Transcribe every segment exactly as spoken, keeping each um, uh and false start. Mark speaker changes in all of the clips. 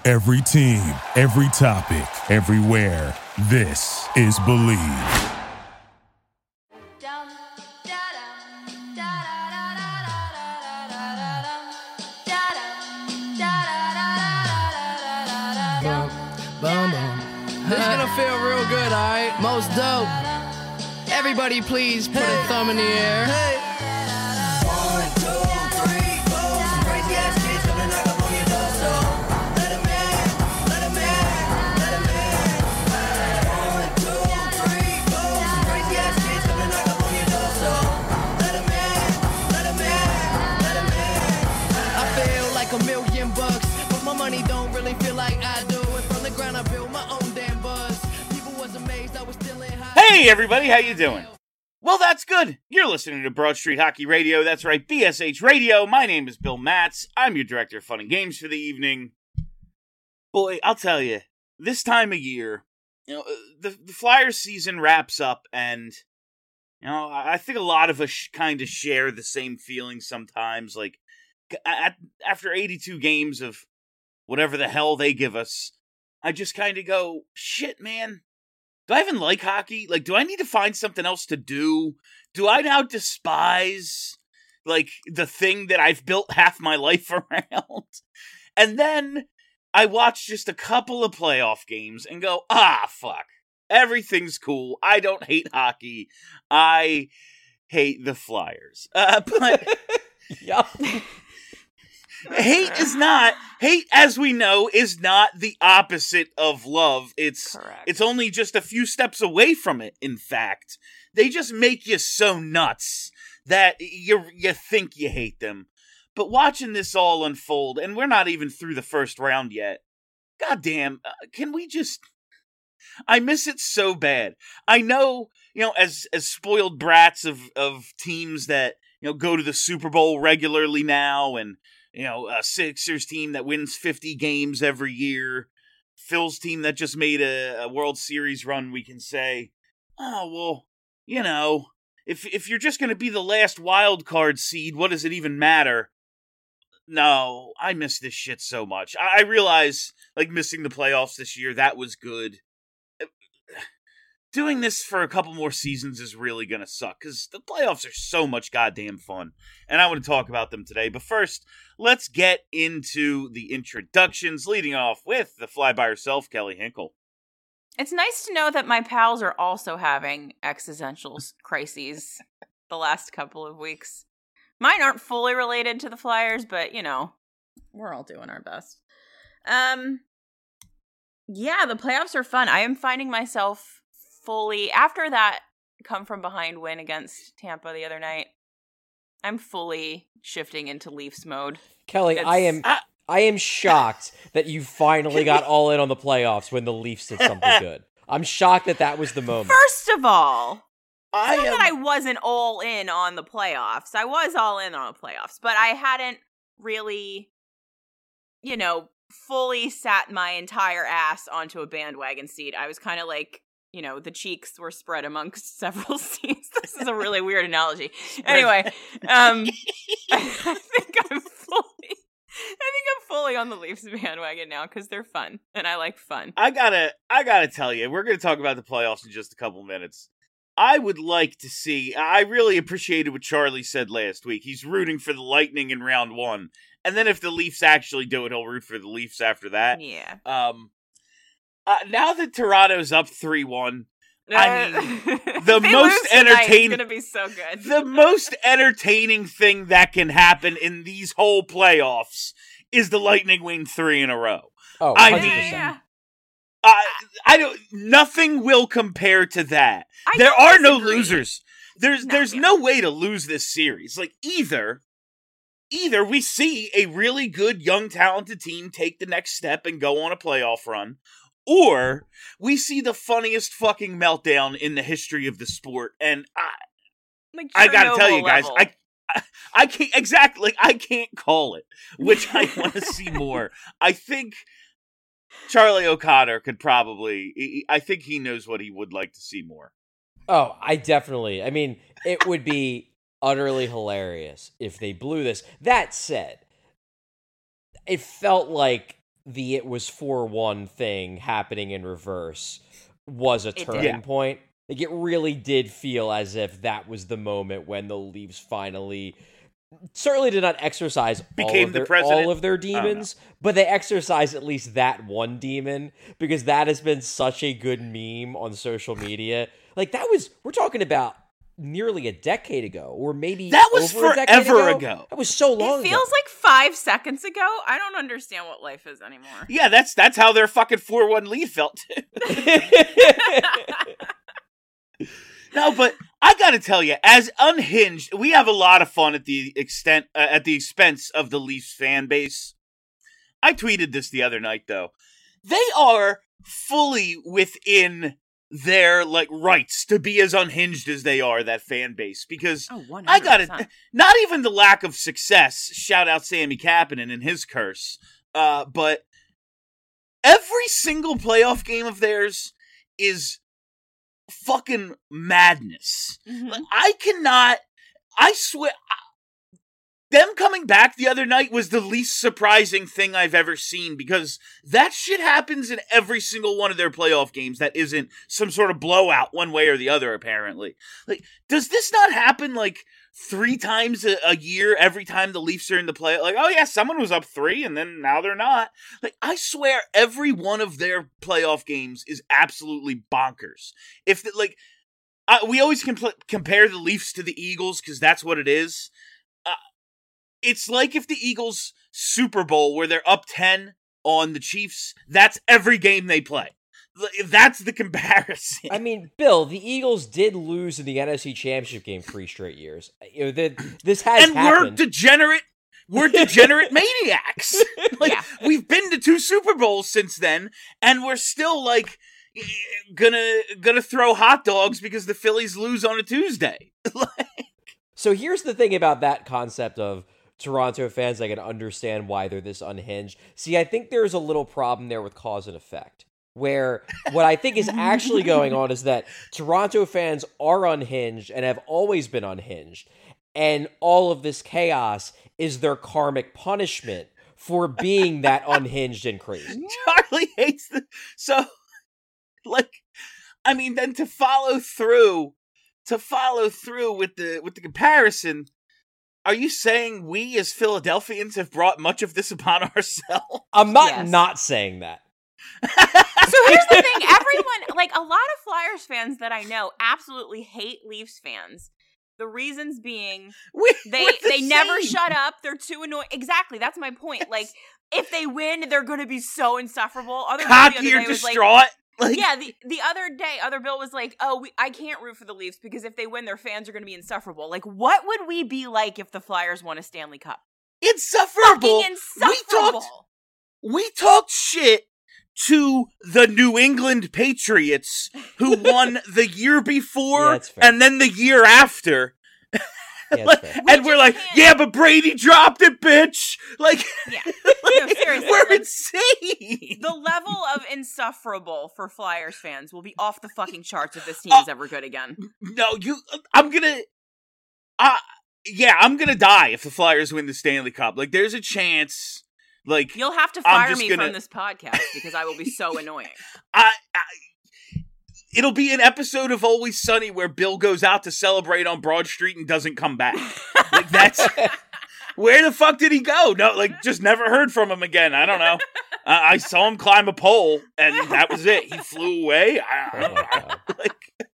Speaker 1: Every team, every topic, everywhere. This is Believe.
Speaker 2: This is gonna feel real good, alright? Most dope. Everybody please put hey. a thumb in the air. Hey. One, two, three, four. Some crazy ass kids gonna knock up on your door, so let 'em in, let 'em in, let 'em in. One, two, three, four. Some crazy ass kids gonna knock up on your door, so let 'em in, let 'em in, let 'em in. I feel like a million bucks, but my money don't really feel like I do. And from the ground I built my own damn buzz. People was amazed I was still in high.
Speaker 3: Hey everybody, how you doing? Well, that's good. You're listening to Broad Street Hockey Radio. That's right, B S H Radio. My name is Bill Matz. I'm your director of fun and games for the evening. Boy, I'll tell you, this time of year, you know, the, the Flyers season wraps up, and you know, I think a lot of us kind of share the same feeling sometimes. Like at, after eighty-two games of whatever the hell they give us, I just kind of go, shit, man. Do I even like hockey? Like, do I need to find something else to do? Do I now despise, like, the thing that I've built half my life around? And then I watch just a couple of playoff games and go, ah, fuck. Everything's cool. I don't hate hockey. I hate the Flyers. Uh, but...
Speaker 4: Yup.
Speaker 3: Hate is not, hate, as we know, is not the opposite of love. It's
Speaker 5: Correct.
Speaker 3: It's only just a few steps away from it, in fact. They just make you so nuts that you you think you hate them. But watching this all unfold, and we're not even through the first round yet, goddamn, uh, can we just... I miss it so bad. I know, you know, as as spoiled brats of, of teams that, you know, go to the Super Bowl regularly now, and you know, a Sixers team that wins fifty games every year. Phil's team that just made a, a World Series run, we can say, oh, well, you know, if if you're just going to be the last wild card seed, what does it even matter? No, I miss this shit so much. I, I realize, like, missing the playoffs this year, that was good. Doing this for a couple more seasons is really going to suck, because the playoffs are so much goddamn fun, and I want to talk about them today. But first, let's get into the introductions, leading off with the fly by herself, Kelly Hinkle.
Speaker 5: It's nice to know that my pals are also having existential crises the last couple of weeks. Mine aren't fully related to the Flyers, but, you know, we're all doing our best. Um, yeah, the playoffs are fun. I am finding myself fully, after that come from behind win against Tampa the other night, I'm fully shifting into Leafs mode.
Speaker 4: Kelly,
Speaker 5: It's,
Speaker 4: I am
Speaker 3: I,
Speaker 4: I am shocked that you finally got all in on the playoffs when the Leafs did something good. I'm shocked that that was the moment.
Speaker 5: First of all,
Speaker 3: I
Speaker 5: not
Speaker 3: am,
Speaker 5: that I wasn't all in on the playoffs. I was all in on the playoffs, but I hadn't really, you know, fully sat my entire ass onto a bandwagon seat. I was kind of like, you know, the cheeks were spread amongst several seats. This is a really weird analogy. Anyway, um, I think I'm fully, I think I'm fully on the Leafs bandwagon now because they're fun and I like fun.
Speaker 3: I gotta, I gotta tell you, we're gonna talk about the playoffs in just a couple minutes. I would like to see, I really appreciated what Charlie said last week. He's rooting for the Lightning in round one. And then if the Leafs actually do it, he'll root for the Leafs after that.
Speaker 5: Yeah.
Speaker 3: Um, Uh, now that Toronto's up three one, I mean, the most entertaining,
Speaker 5: it's gonna be so good.
Speaker 3: the most entertaining thing that can happen in these whole playoffs is the Lightning win three in a row.
Speaker 4: Oh,
Speaker 3: I
Speaker 4: one hundred
Speaker 3: mean,
Speaker 4: percent.
Speaker 5: Yeah.
Speaker 3: Uh, I don't. Nothing will compare to that.
Speaker 5: I
Speaker 3: there
Speaker 5: don't
Speaker 3: are no
Speaker 5: disagree.
Speaker 3: losers. There's
Speaker 5: No,
Speaker 3: there's
Speaker 5: yeah.
Speaker 3: no way to lose this series. Like either. Either we see a really good, young, talented team take the next step and go on a playoff run, or we see the funniest fucking meltdown in the history of the sport. And I,
Speaker 5: Like
Speaker 3: I gotta tell
Speaker 5: Chernobyl
Speaker 3: you guys,
Speaker 5: level.
Speaker 3: I, I, I can't exactly. Like, I can't call it, which I want to see more. I think Charlie O'Connor could probably. I think he knows what he would like to see more.
Speaker 4: Oh, I definitely. I mean, it would be utterly hilarious if they blew this. That said, it felt like the it was four one thing happening in reverse was a
Speaker 5: It
Speaker 4: turning
Speaker 3: did.
Speaker 4: point. Like, it really did feel as if that was the moment when the Leafs finally certainly did not exercise all
Speaker 3: Became
Speaker 4: of,
Speaker 3: the
Speaker 4: their,
Speaker 3: president?
Speaker 4: all of their demons, but they exercised at least that one demon, because that has been such a good meme on social media. Like, that was, we're talking about nearly a decade ago, or maybe
Speaker 3: That was
Speaker 4: over a decade
Speaker 3: forever
Speaker 4: ago.
Speaker 3: ago.
Speaker 4: That was so long
Speaker 5: It feels
Speaker 4: ago.
Speaker 5: like five seconds ago. I don't understand what life is anymore.
Speaker 3: Yeah, that's that's how their fucking four one lead felt. No, but I gotta tell you, as unhinged, we have a lot of fun at the extent uh, at the expense of the Leafs fan base. I tweeted this the other night, though. They are fully within their like rights to be as unhinged as they are, that fan base, because
Speaker 5: Oh, one
Speaker 3: I
Speaker 5: hundred
Speaker 3: got
Speaker 5: percent.
Speaker 3: it. Not even the lack of success. Shout out Sammy Kapanen and his curse. Uh, but every single playoff game of theirs is fucking madness.
Speaker 5: Mhm.
Speaker 3: Like, I cannot. I swear. I- Them coming back the other night was the least surprising thing I've ever seen, because that shit happens in every single one of their playoff games that isn't some sort of blowout one way or the other, apparently. Like, does this not happen like three times a, a year every time the Leafs are in the play? Like, oh yeah, someone was up three and then now they're not. Like, I swear every one of their playoff games is absolutely bonkers. If, the, like, I, we always compl- compare the Leafs to the Eagles because that's what it is. It's like if the Eagles Super Bowl where they're up ten on the Chiefs, that's every game they play. That's the comparison.
Speaker 4: I mean, Bill, the Eagles did lose in the N F C Championship game three straight years. You know, the, this has
Speaker 3: and
Speaker 4: happened.
Speaker 3: we're degenerate we're degenerate maniacs. Like,
Speaker 5: Yeah.
Speaker 3: we've been to two Super Bowls since then, and we're still like gonna gonna throw hot dogs because the Phillies lose on a Tuesday.
Speaker 4: So here's the thing about that concept of Toronto fans. I can understand why they're this unhinged. See, I think there's a little problem there with cause and effect, where what I think is actually going on is that Toronto fans are unhinged and have always been unhinged, and all of this chaos is their karmic punishment for being that unhinged and crazy.
Speaker 3: Charlie hates the so like I mean then to follow through to follow through with the with the comparison, are you saying we as Philadelphians have brought much of this upon ourselves?
Speaker 4: I'm not
Speaker 5: Yes.
Speaker 4: not saying that.
Speaker 5: So here's the thing: everyone, like a lot of Flyers fans that I know, absolutely hate Leafs fans. The reasons being
Speaker 3: We,
Speaker 5: they
Speaker 3: we're the
Speaker 5: they never
Speaker 3: same.
Speaker 5: shut up. They're too annoying. Exactly, that's my point. Like if they win, they're going to be so insufferable. Other Bill the
Speaker 3: cocky
Speaker 5: other
Speaker 3: or
Speaker 5: day was like,
Speaker 3: distraught. Like,
Speaker 5: yeah, the the other day, other Bill was like, "Oh, we, I can't root for the Leafs because if they win, their fans are going to be insufferable." Like, what would we be like if the Flyers won a Stanley Cup?
Speaker 3: insufferable.
Speaker 5: Fucking
Speaker 3: We
Speaker 5: insufferable.
Speaker 3: talked we talked shit to the New England Patriots, who won the year
Speaker 4: Yeah,
Speaker 3: before
Speaker 4: that's fair.
Speaker 3: and then the year after.
Speaker 4: Yeah, that's fair.
Speaker 3: And
Speaker 5: We
Speaker 3: we're
Speaker 5: just
Speaker 3: like,
Speaker 5: can't-
Speaker 3: yeah, but Brady dropped it, bitch. Like,
Speaker 5: Yeah. No, seriously,
Speaker 3: we're
Speaker 5: like,
Speaker 3: insane.
Speaker 5: The level of insufferable for Flyers fans will be off the fucking charts if this team
Speaker 3: Uh,
Speaker 5: is ever good again.
Speaker 3: No, you. I'm gonna. Uh, yeah, I'm gonna die if the Flyers win the Stanley Cup. Like, there's a chance. Like,
Speaker 5: You'll have to
Speaker 3: I'm
Speaker 5: fire
Speaker 3: just
Speaker 5: me
Speaker 3: gonna-
Speaker 5: from this podcast because I will be so annoying.
Speaker 3: I, I. It'll be an episode of Always Sunny where Bill goes out to celebrate on Broad Street and doesn't come back. Like, that's. Where the fuck did he go? No, like, just never heard from him again. I don't know. Uh, I saw him climb a pole, and that was it. He flew away. I, I
Speaker 4: Oh
Speaker 3: don't
Speaker 4: my
Speaker 3: know.
Speaker 4: God.
Speaker 3: Like,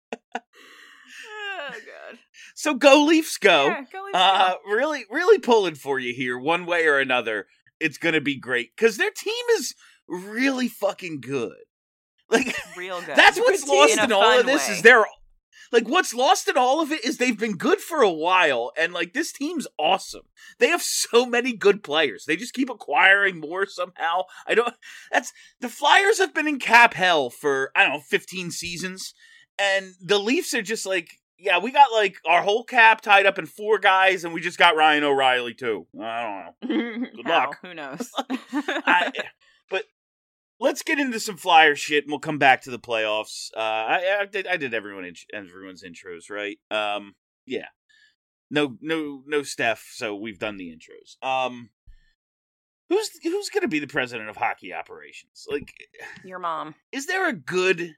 Speaker 5: Oh god.
Speaker 3: so go Leafs, go.
Speaker 5: Yeah, go Leafs,
Speaker 3: Uh,
Speaker 5: go.
Speaker 3: really, really pulling for you here, one way or another. It's gonna be great because their team is really fucking good. Like,
Speaker 5: Real good.
Speaker 3: that's what's lost
Speaker 5: In
Speaker 3: in,
Speaker 5: a
Speaker 3: all
Speaker 5: fun
Speaker 3: of this
Speaker 5: way.
Speaker 3: is their like what's lost in all of it is they've been good for a while, and like this team's awesome. They have so many good players. They just keep acquiring more somehow. I don't. That's the Flyers have been in cap hell for I don't know fifteen seasons, and the Leafs are just like. Yeah, we got like our whole cap tied up in four guys, and we just got Ryan O'Reilly too. I don't know. Good
Speaker 5: How?
Speaker 3: luck.
Speaker 5: Who knows?
Speaker 3: I, but let's get into some Flyer shit, and we'll come back to the playoffs. Uh, I, I did I did everyone in, everyone's intros, right? Um, yeah. No, no, no Steph. So we've done the intros. Um, Who's who's going to be the president of hockey operations? Like,
Speaker 5: Your mom.
Speaker 3: is there a good,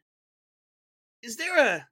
Speaker 3: is there a,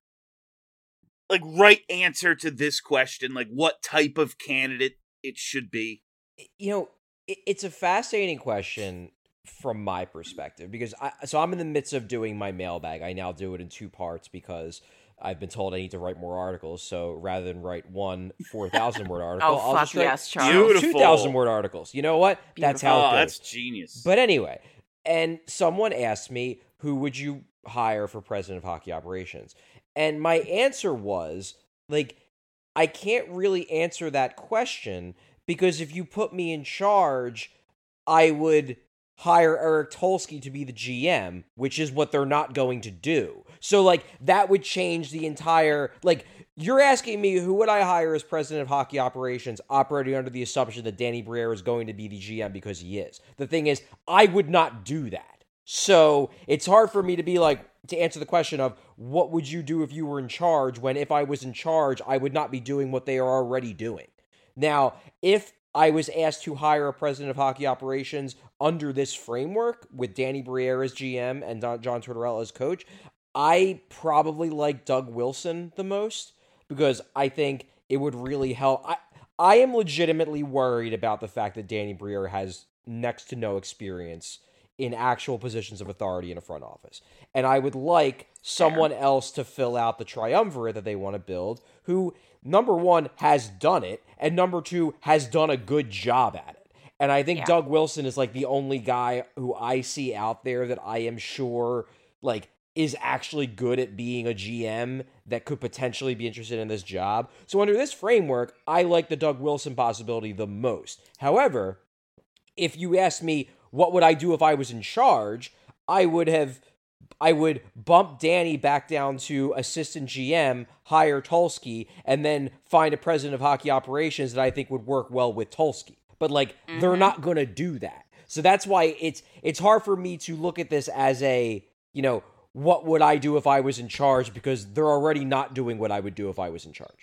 Speaker 3: like, right answer to this question? Like, what type of candidate it should be?
Speaker 4: You know, it, it's a fascinating question from my perspective, because I, so I'm in the midst of doing my mailbag. I now do it in two parts because I've been told I need to write more articles. So rather than write one four thousand word article,
Speaker 5: Oh,
Speaker 4: I'll
Speaker 5: fuck
Speaker 4: just write
Speaker 5: yes, Charles.
Speaker 3: Beautiful.
Speaker 4: two thousand word articles. You know what? That's how
Speaker 3: Oh,
Speaker 4: it goes.
Speaker 3: that's genius.
Speaker 4: But anyway, and someone asked me, who would you hire for president of hockey operations? And my answer was, like, I can't really answer that question because if you put me in charge, I would hire Eric Tulsky to be the G M, which is what they're not going to do. So, like, that would change the entire, like, you're asking me who would I hire as president of hockey operations, operating under the assumption that Danny Briere is going to be the G M because he is. The thing is, I would not do that. So it's hard for me to be like, to answer the question of what would you do if you were in charge, when if I was in charge, I would not be doing what they are already doing. Now, if I was asked to hire a president of hockey operations under this framework with Danny Briere as G M and John Tortorella as coach, I probably like Doug Wilson the most because I think it would really help. I, I am legitimately worried about the fact that Danny Briere has next to no experience in actual positions of authority in a front office. And I would like someone else to fill out the triumvirate that they want to build who, number one, has done it, and number two, has done a good job at it. And I think
Speaker 5: Yeah.
Speaker 4: Doug Wilson is like the only guy who I see out there that I am sure like is actually good at being a G M that could potentially be interested in this job. So under this framework, I like the Doug Wilson possibility the most. However, if you ask me what would I do if I was in charge, I would have I would bump Danny back down to assistant G M, hire Tulsky, and then find a president of hockey operations that I think would work well with Tulsky. But, like, mm-hmm. they're not going to do that. So that's why it's it's hard for me to look at this as a, you know, what would I do if I was in charge, because they're already not doing what I would do if I was in charge.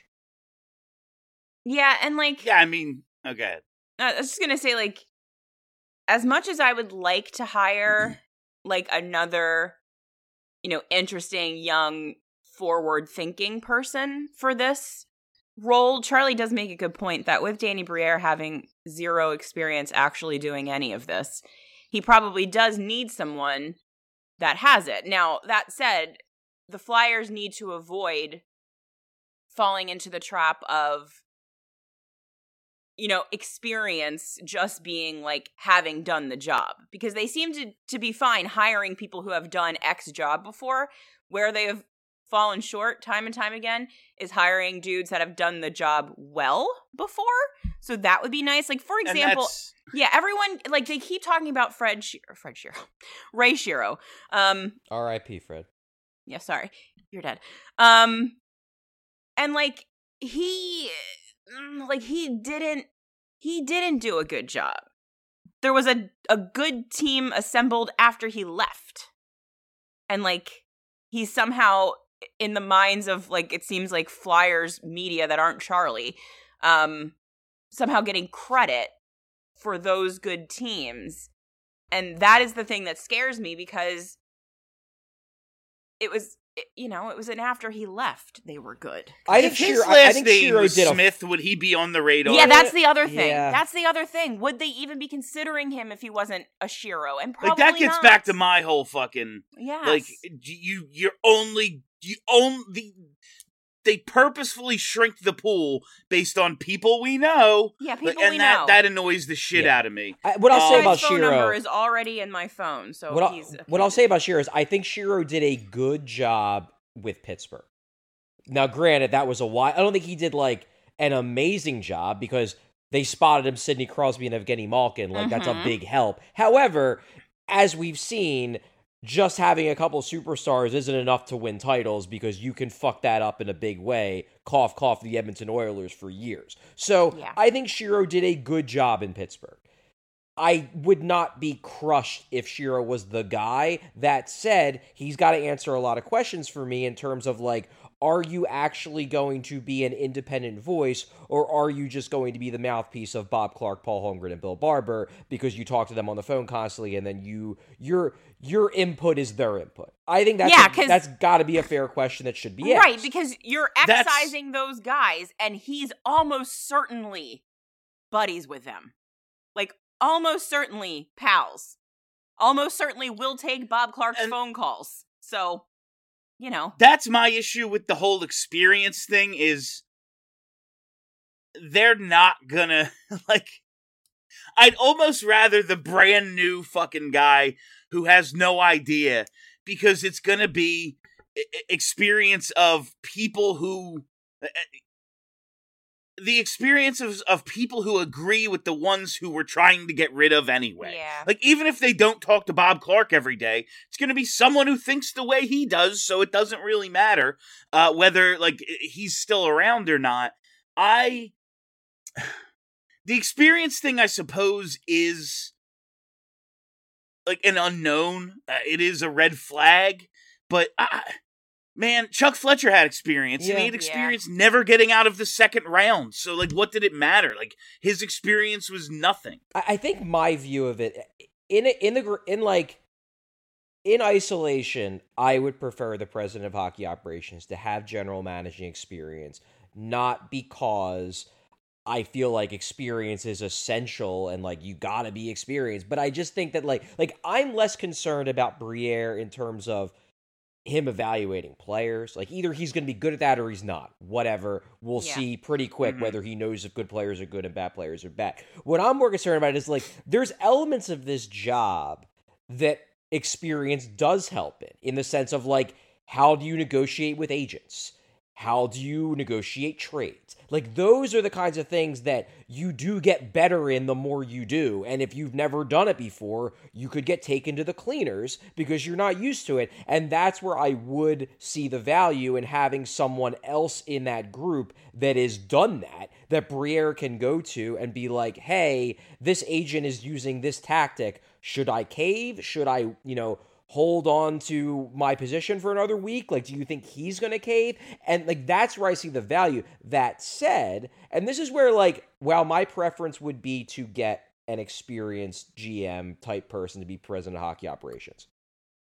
Speaker 5: Yeah, and, like...
Speaker 3: Yeah, I mean, okay.
Speaker 5: I was just going to say, like, as much as I would like to hire, like, another, you know, interesting, young, forward-thinking person for this role, Charlie does make a good point that with Danny Briere having zero experience actually doing any of this, he probably does need someone that has it. Now, that said, the Flyers need to avoid falling into the trap of, you know, experience just being like having done the job, because they seem to, to be fine hiring people who have done X job before. Where they have fallen short time and time again is hiring dudes that have done the job well before. So that would be nice. Like, for example, yeah, everyone, like, they keep talking about Fred Shero, Fred Shero, Ray Shero. Um,
Speaker 4: R I P Fred.
Speaker 5: Yeah, sorry, you're dead. Um, and like he. Like, he didn't, he didn't do a good job. There was a, a good team assembled after he left. And, like, he's somehow, in the minds of, like, it seems like Flyers media that aren't Charlie, um, somehow getting credit for those good teams. And that is the thing that scares me, because it was... You know, it was an after he left, they were good.
Speaker 4: I think
Speaker 3: if his
Speaker 4: Shero,
Speaker 3: last
Speaker 4: I think
Speaker 3: name
Speaker 4: Shero
Speaker 3: was
Speaker 4: did
Speaker 3: Smith, a... would he be on the radar?
Speaker 5: Yeah, that's the other thing.
Speaker 4: Yeah.
Speaker 5: That's the other thing. Would they even be considering him if he wasn't a Shero? And probably
Speaker 3: like that gets
Speaker 5: not.
Speaker 3: back to my whole fucking
Speaker 5: yes.
Speaker 3: like you. You're only you only. They purposefully shrink the pool based on people we know.
Speaker 5: Yeah, people
Speaker 3: and
Speaker 5: we
Speaker 3: that,
Speaker 5: know.
Speaker 3: that annoys the shit
Speaker 4: Yeah.
Speaker 3: out of me.
Speaker 4: I, what I'll
Speaker 3: Um,
Speaker 4: say about
Speaker 5: His phone number
Speaker 4: Shero
Speaker 5: is already in my phone, so
Speaker 4: what I'll,
Speaker 5: he's a
Speaker 4: what I'll say about Shero is I think Shero did a good job with Pittsburgh. Now, granted, that was a while. I don't think he did like an amazing job, because they spotted him Sidney Crosby and Evgeny Malkin. Like, mm-hmm. that's a big help. However, as we've seen, just having a couple superstars isn't enough to win titles, because you can fuck that up in a big way. Cough, cough, the Edmonton Oilers for years. So
Speaker 5: Yeah.
Speaker 4: I think Shero did a good job in Pittsburgh. I would not be crushed if Shero was the guy. That said, he's got to answer a lot of questions for me in terms of, like, are you actually going to be an independent voice, or are you just going to be the mouthpiece of Bob Clark, Paul Holmgren, and Bill Barber because you talk to them on the phone constantly, and then you your your input is their input? I think that's
Speaker 5: Yeah,
Speaker 4: a-
Speaker 5: 'cause-
Speaker 4: that's got to be a fair question that should be asked.
Speaker 5: Right, because you're
Speaker 3: That's-
Speaker 5: excising those guys, and he's almost certainly buddies with them. Like, almost certainly pals. Almost certainly will take Bob Clark's
Speaker 3: And-
Speaker 5: phone calls. So, you know.
Speaker 3: That's my issue with the whole experience thing is they're not gonna, like, I'd almost rather the brand new fucking guy who has no idea, because it's gonna be e- experience of people who, the experience of, of people who agree with the ones who we're trying to get rid of anyway.
Speaker 5: Yeah.
Speaker 3: Like, even if they don't talk to Bob Clark every day, it's going to be someone who thinks the way he does, so it doesn't really matter uh, whether, like, he's still around or not. I... The experience thing, I suppose, is, like, an unknown. Uh, it is a red flag, but... I, Man, Chuck Fletcher had experience, and
Speaker 4: Yeah.
Speaker 3: he had experience never getting out of the second round. So, like, what did it matter? Like, his experience was nothing.
Speaker 4: I, I think my view of it in in the gr- in like in isolation, I would prefer the president of hockey operations to have general managing experience, not because I feel like experience is essential and like you gotta be experienced, but I just think that like like I'm less concerned about Briere in terms of him evaluating players. Like, either he's going to be good at that or he's not. Whatever. We'll
Speaker 5: Yeah.
Speaker 4: see pretty quick
Speaker 3: Mhm.
Speaker 4: whether he knows if good players are good and bad players are bad. What I'm more concerned about is, like, there's elements of this job that experience does help in, in the sense of, like, how do you negotiate with agents? How do you negotiate trades? Like, those are the kinds of things that you do get better in the more you do. And if you've never done it before, you could get taken to the cleaners because you're not used to it. And that's where I would see the value in having someone else in that group that has done that, that Briere can go to and be like, hey, this agent is using this tactic. Should I cave? Should I, you know, hold on to my position for another week? Like, do you think he's going to cave? And, like, that's where I see the value. That said, and this is where, like, while my preference would be to get an experienced G M type person to be president of hockey operations,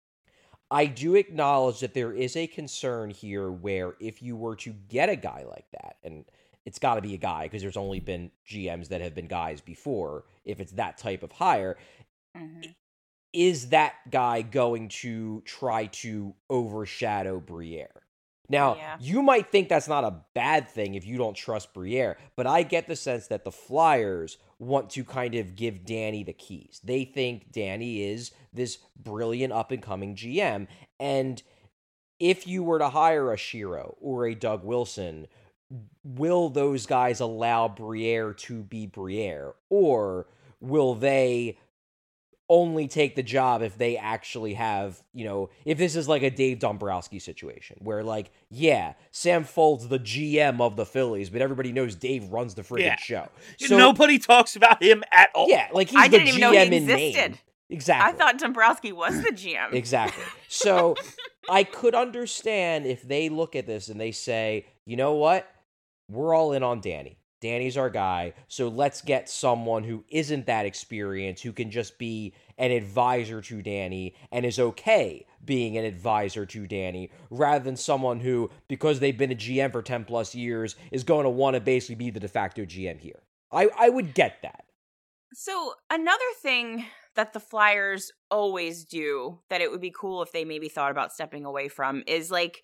Speaker 4: I do acknowledge that there is a concern here where if you were to get a guy like that, and it's got to be a guy because there's only been G Ms that have been guys before, if it's that type of hire,
Speaker 5: Mm-hmm.
Speaker 4: is that guy going to try to overshadow Briere? Now,
Speaker 5: Yeah.
Speaker 4: you might think that's not a bad thing if you don't trust Briere, but I get the sense that the Flyers want to kind of give Danny the keys. They think Danny is this brilliant up-and-coming G M, and if you were to hire a Shiro or a Doug Wilson, will those guys allow Briere to be Briere, or will they only take the job if they actually have, you know, if this is like a Dave Dombrowski situation where, like, yeah, Sam Folds the G M of the Phillies, but everybody knows Dave runs the freaking
Speaker 3: Yeah.
Speaker 4: show.
Speaker 3: Nobody talks about him at all.
Speaker 4: Yeah, like he's
Speaker 5: I
Speaker 4: the
Speaker 5: didn't even
Speaker 4: G
Speaker 5: know he
Speaker 4: M in
Speaker 5: existed.
Speaker 4: name. Exactly.
Speaker 5: I thought Dombrowski was the G M.
Speaker 4: Exactly. So I could understand if they look at this and they say, you know what? We're all in on Danny. Danny's our guy. So let's get someone who isn't that experienced, who can just be an advisor to Danny and is okay being an advisor to Danny, rather than someone who, because they've been a G M for ten plus years, is going to want to basically be the de facto G M here. I, I would get that.
Speaker 5: So another thing that the Flyers always do that it would be cool if they maybe thought about stepping away from is, like,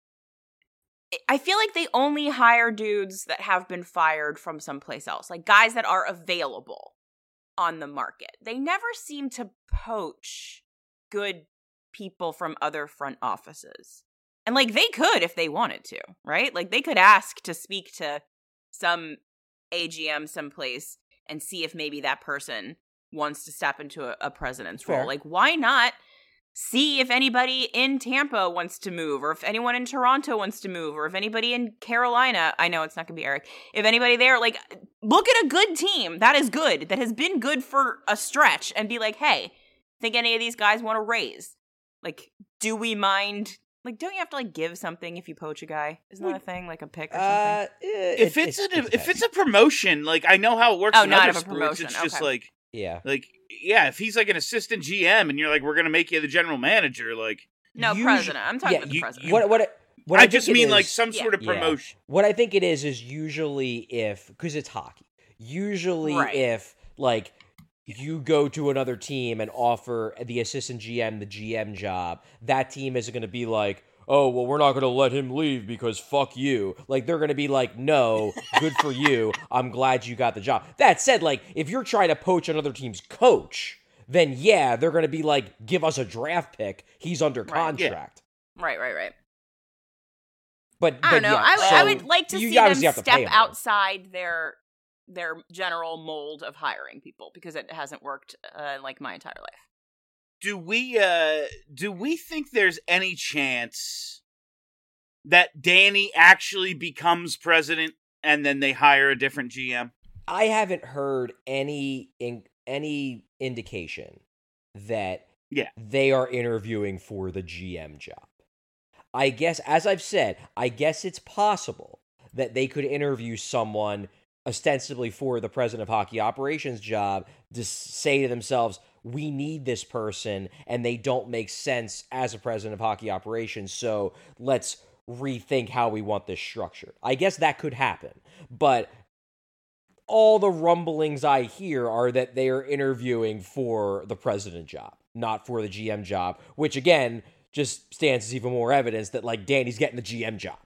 Speaker 5: I feel like they only hire dudes that have been fired from someplace else, like guys that are available on the market. They never seem to poach good people from other front offices. And, like, they could if they wanted to, right? Like, they could ask to speak to some A G M someplace and see if maybe that person wants to step into a, a president's
Speaker 4: Fair.
Speaker 5: role. Like, why not see if anybody in Tampa wants to move, or if anyone in Toronto wants to move, or if anybody in Carolina, I know it's not going to be Eric, if anybody there, like, look at a good team that is good, that has been good for a stretch, and be like, hey, think any of these guys want to raise? Like, do we mind Like, don't you have to like give something if you poach a guy? Isn't that a thing, like a pick or
Speaker 4: Uh,
Speaker 5: something?
Speaker 4: eh,
Speaker 3: If
Speaker 4: it-
Speaker 3: it's,
Speaker 4: it-
Speaker 3: an,
Speaker 4: it
Speaker 3: if it's
Speaker 4: depends.
Speaker 3: a promotion, like I know how it works
Speaker 5: Oh,
Speaker 3: in
Speaker 5: not
Speaker 3: other
Speaker 5: of a
Speaker 3: sports.
Speaker 5: promotion,
Speaker 3: It's just
Speaker 5: okay.
Speaker 3: like,
Speaker 4: yeah,
Speaker 3: like yeah, if he's like an assistant G M and you're like, we're gonna make you the general manager, like
Speaker 5: No,
Speaker 4: usu-
Speaker 5: president. I'm talking
Speaker 4: yeah,
Speaker 5: about the
Speaker 3: you-
Speaker 5: president.
Speaker 3: you-
Speaker 4: what what it- what
Speaker 3: I,
Speaker 4: I,
Speaker 3: just
Speaker 4: think it
Speaker 3: mean like
Speaker 4: is-
Speaker 3: some
Speaker 5: Yeah.
Speaker 3: sort of
Speaker 4: Yeah.
Speaker 3: promotion.
Speaker 4: What I think it is is usually if because it's hockey. Usually,
Speaker 5: Right.
Speaker 4: if like you go to another team and offer the assistant G M the G M job, that team isn't going to be like, oh, well, we're not going to let him leave because fuck you. Like, they're going to be like, no, good for you. I'm glad you got the job. That said, like, if you're trying to poach another team's coach, then yeah, they're going to be like, give us a draft pick. He's under
Speaker 5: Right,
Speaker 3: yeah.
Speaker 4: contract.
Speaker 5: Right, right, right.
Speaker 4: But,
Speaker 5: I
Speaker 4: but
Speaker 5: don't know.
Speaker 4: yeah,
Speaker 5: I, would-
Speaker 4: so
Speaker 5: I would like to
Speaker 4: you
Speaker 5: see them
Speaker 4: obviously have to
Speaker 5: step
Speaker 4: pay 'em, though.
Speaker 5: outside their their general mold of hiring people because it hasn't worked uh, like my entire life.
Speaker 3: Do we uh do we think there's any chance that Danny actually becomes president and then they hire a different G M?
Speaker 4: I haven't heard any in, any indication that
Speaker 3: Yeah.
Speaker 4: they are interviewing for the G M job. I guess, as I've said, I guess it's possible that they could interview someone ostensibly for the president of hockey operations job to s- say to themselves, we need this person and they don't make sense as a president of hockey operations, so let's rethink how we want this structured. I guess that could happen, but all the rumblings I hear are that they are interviewing for the president job, not for the G M job, which again just stands as even more evidence that like Danny's getting the G M job.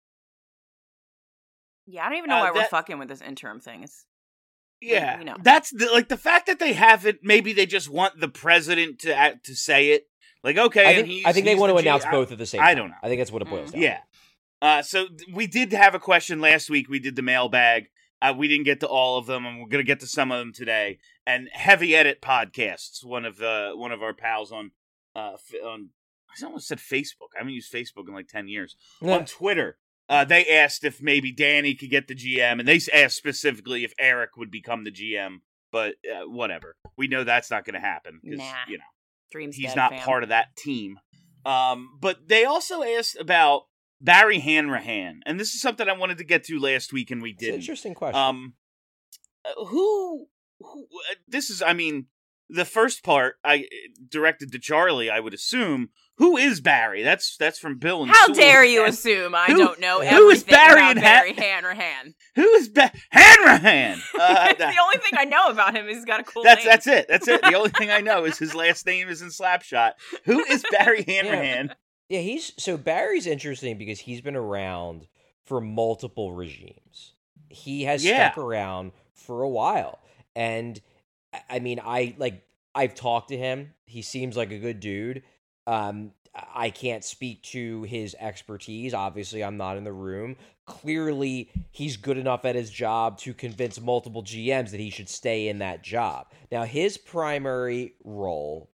Speaker 5: Yeah, I don't even know
Speaker 3: Uh,
Speaker 5: why we're
Speaker 3: that-
Speaker 5: fucking with this interim thing. It's
Speaker 3: Yeah,
Speaker 5: we know.
Speaker 3: that's the, like the fact that they haven't. Maybe they just want the president to act, to say it. Like, okay,
Speaker 4: I
Speaker 3: and
Speaker 4: think
Speaker 3: he's,
Speaker 4: I think they
Speaker 3: he's
Speaker 4: want to
Speaker 3: the G-
Speaker 4: announce
Speaker 3: I-
Speaker 4: both at the same
Speaker 3: I
Speaker 4: time.
Speaker 3: don't know.
Speaker 4: I think that's what it boils down.
Speaker 3: Yeah. Uh, so th- we did have a question last week. We did the mailbag. Uh, we didn't get to all of them, and we're gonna get to some of them today. And Heavy Edit Podcasts, one of uh, one of our pals on uh, f- on I almost said Facebook. I haven't used Facebook in like ten years.
Speaker 4: Yeah.
Speaker 3: On Twitter, uh, they asked if maybe Danny could get the G M, and they asked specifically if Eric would become the G M. But uh, whatever, we know that's not going to happen because
Speaker 5: Nah.
Speaker 3: you know
Speaker 5: dreams.
Speaker 3: he's
Speaker 5: dead,
Speaker 3: not
Speaker 5: fam.
Speaker 3: part of that team. Um, but they also asked about Barry Hanrahan, and this is something I wanted to get to last week, and we
Speaker 4: It's an
Speaker 3: didn't.
Speaker 4: interesting question.
Speaker 3: Um, uh, who, who? Uh, this is, I mean, the first part I directed to Charlie. I would assume. Who is Barry? That's that's from Bill and
Speaker 5: How
Speaker 3: Sewell.
Speaker 5: dare you assume I
Speaker 3: Who-
Speaker 5: don't know
Speaker 3: who is
Speaker 5: everything
Speaker 3: Barry
Speaker 5: about
Speaker 3: and
Speaker 5: Barry
Speaker 3: Ha-
Speaker 5: Hanrahan?
Speaker 3: Who is ba- Hanrahan? Uh,
Speaker 5: It's
Speaker 3: that-
Speaker 5: the only thing I know about him is he's got a cool
Speaker 3: that's
Speaker 5: name.
Speaker 3: that's it. That's it. The only thing I know is his last name is in Slapshot. Who is Barry Hanrahan?
Speaker 4: Yeah, he's so Barry's interesting because he's been around for multiple regimes. He has
Speaker 3: Yeah.
Speaker 4: stuck around for a while. And I- I mean, I like I've talked to him. He seems like a good dude. Um I can't speak to his expertise. Obviously, I'm not in the room. Clearly, he's good enough at his job to convince multiple G Ms that he should stay in that job. Now, his primary role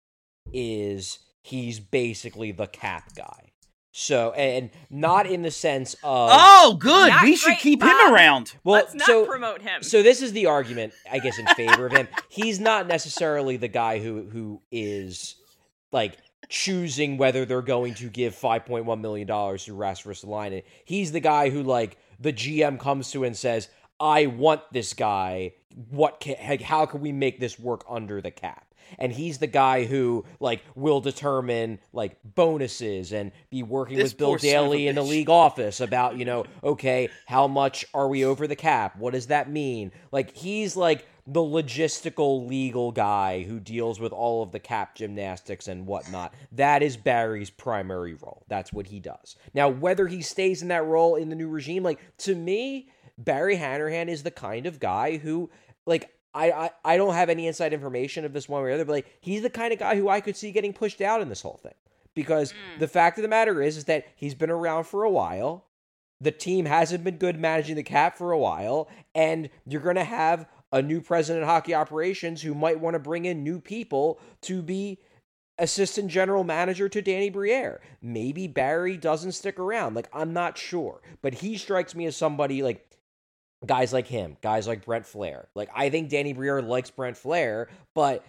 Speaker 4: is he's basically the cap guy. So, and not in the sense of
Speaker 3: Oh, good.
Speaker 5: Not
Speaker 3: We should
Speaker 5: great,
Speaker 3: keep
Speaker 5: Bob.
Speaker 3: him around.
Speaker 4: well,
Speaker 5: Let's not
Speaker 4: so
Speaker 5: promote him.
Speaker 4: so this is the argument, I guess, in favor of him. He's not necessarily the guy who who is like choosing whether they're going to give five point one million dollars to Rasmus Ristolainen. He's the guy who like the G M comes to and says, "I want this guy. What can, how can we make this work under the cap?" And he's the guy who like will determine like bonuses and be working
Speaker 3: This
Speaker 4: with Bill
Speaker 3: poor son of a
Speaker 4: Daly in the
Speaker 3: bitch.
Speaker 4: league office about, you know, okay, how much are we over the cap? What does that mean? Like he's like the logistical legal guy who deals with all of the cap gymnastics and whatnot. That is Barry's primary role. That's what he does. Now, whether he stays in that role in the new regime, like to me, Barry Hanrahan is the kind of guy who like I, I, I don't have any inside information of this one way or the other, but like he's the kind of guy who I could see getting pushed out in this whole thing. Because the fact of the matter is, is that he's been around for a while. The team hasn't been good managing the cap for a while, and you're going to have a new president of hockey operations who might want to bring in new people to be assistant general manager to Danny Briere. Maybe Barry doesn't stick around. Like, I'm not sure. But he strikes me as somebody like guys like him, guys like Brent Flair. Like, I think Danny Briere likes Brent Flair, but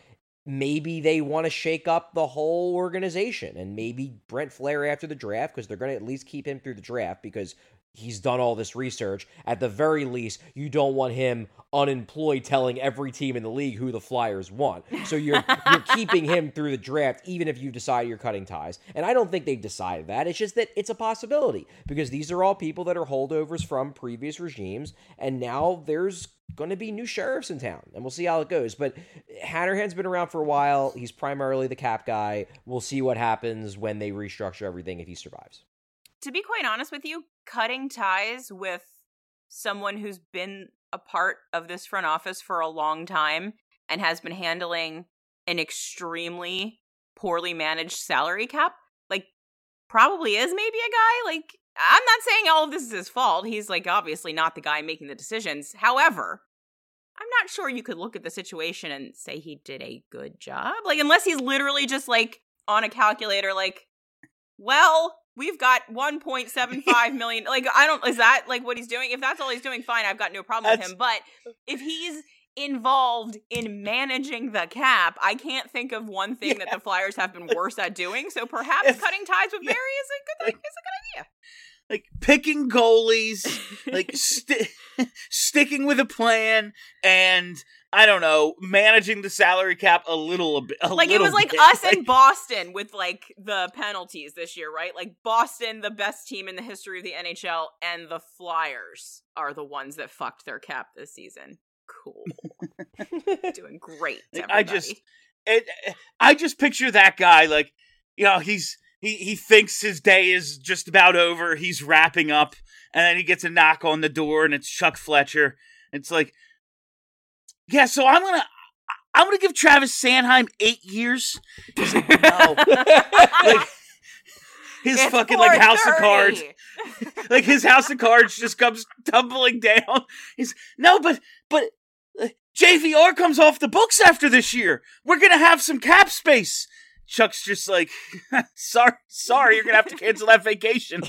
Speaker 4: maybe they want to shake up the whole organization, and maybe Brent Flaherty after the draft, because they're going to at least keep him through the draft because he's done all this research. At the very least, you don't want him unemployed telling every team in the league who the Flyers want. So you're you're keeping him through the draft, even if you decide you're cutting ties. And I don't think they've decided that. It's just that it's a possibility, because these are all people that are holdovers from previous regimes, and now there's going to be new sheriffs in town, and we'll see how it goes. But Hanrahan's been around for a while. He's primarily the cap guy. We'll see what happens when they restructure everything if he survives.
Speaker 5: To be quite honest with you, cutting ties with someone who's been a part of this front office for a long time and has been handling an extremely poorly managed salary cap, like, probably is maybe a guy. Like, I'm not saying all of this is his fault. He's, like, obviously not the guy making the decisions. However, I'm not sure you could look at the situation and say he did a good job. Like, unless he's literally just, like, on a calculator, like, well, we've got one point seven five million. Like, I don't, is that, like, what he's doing? If that's all he's doing, fine, I've got no problem
Speaker 3: That's...
Speaker 5: with him. But if he's involved in managing the cap, I can't think of one thing yeah. that the Flyers have been worse at doing. So perhaps if, cutting ties with
Speaker 3: yeah.
Speaker 5: Barry is a good, is a good idea.
Speaker 3: Like, picking goalies, like, sti- sticking with a plan, and, I don't know, managing the salary cap a little bit. A
Speaker 5: like,
Speaker 3: little
Speaker 5: it was like
Speaker 3: bit.
Speaker 5: us
Speaker 3: like,
Speaker 5: and Boston with, like, the penalties this year, right? Like, Boston, the best team in the history of the N H L, and the Flyers are the ones that fucked their cap this season. Cool. Doing great, everybody.
Speaker 3: I just, it, I just picture that guy, like, you know, he's, He he thinks his day is just about over. He's wrapping up, and then he gets a knock on the door, and it's Chuck Fletcher. It's like, yeah, so I'm gonna I'm gonna give Travis Sanheim eight years. He's like, no, like his
Speaker 5: it's
Speaker 3: fucking like house of
Speaker 5: thirty.
Speaker 3: cards, like his house of cards just comes tumbling down. He's no, but but uh, J V R comes off the books after this year. We're gonna have some cap space. Chuck's just like, sorry, sorry, you're gonna have to cancel that vacation.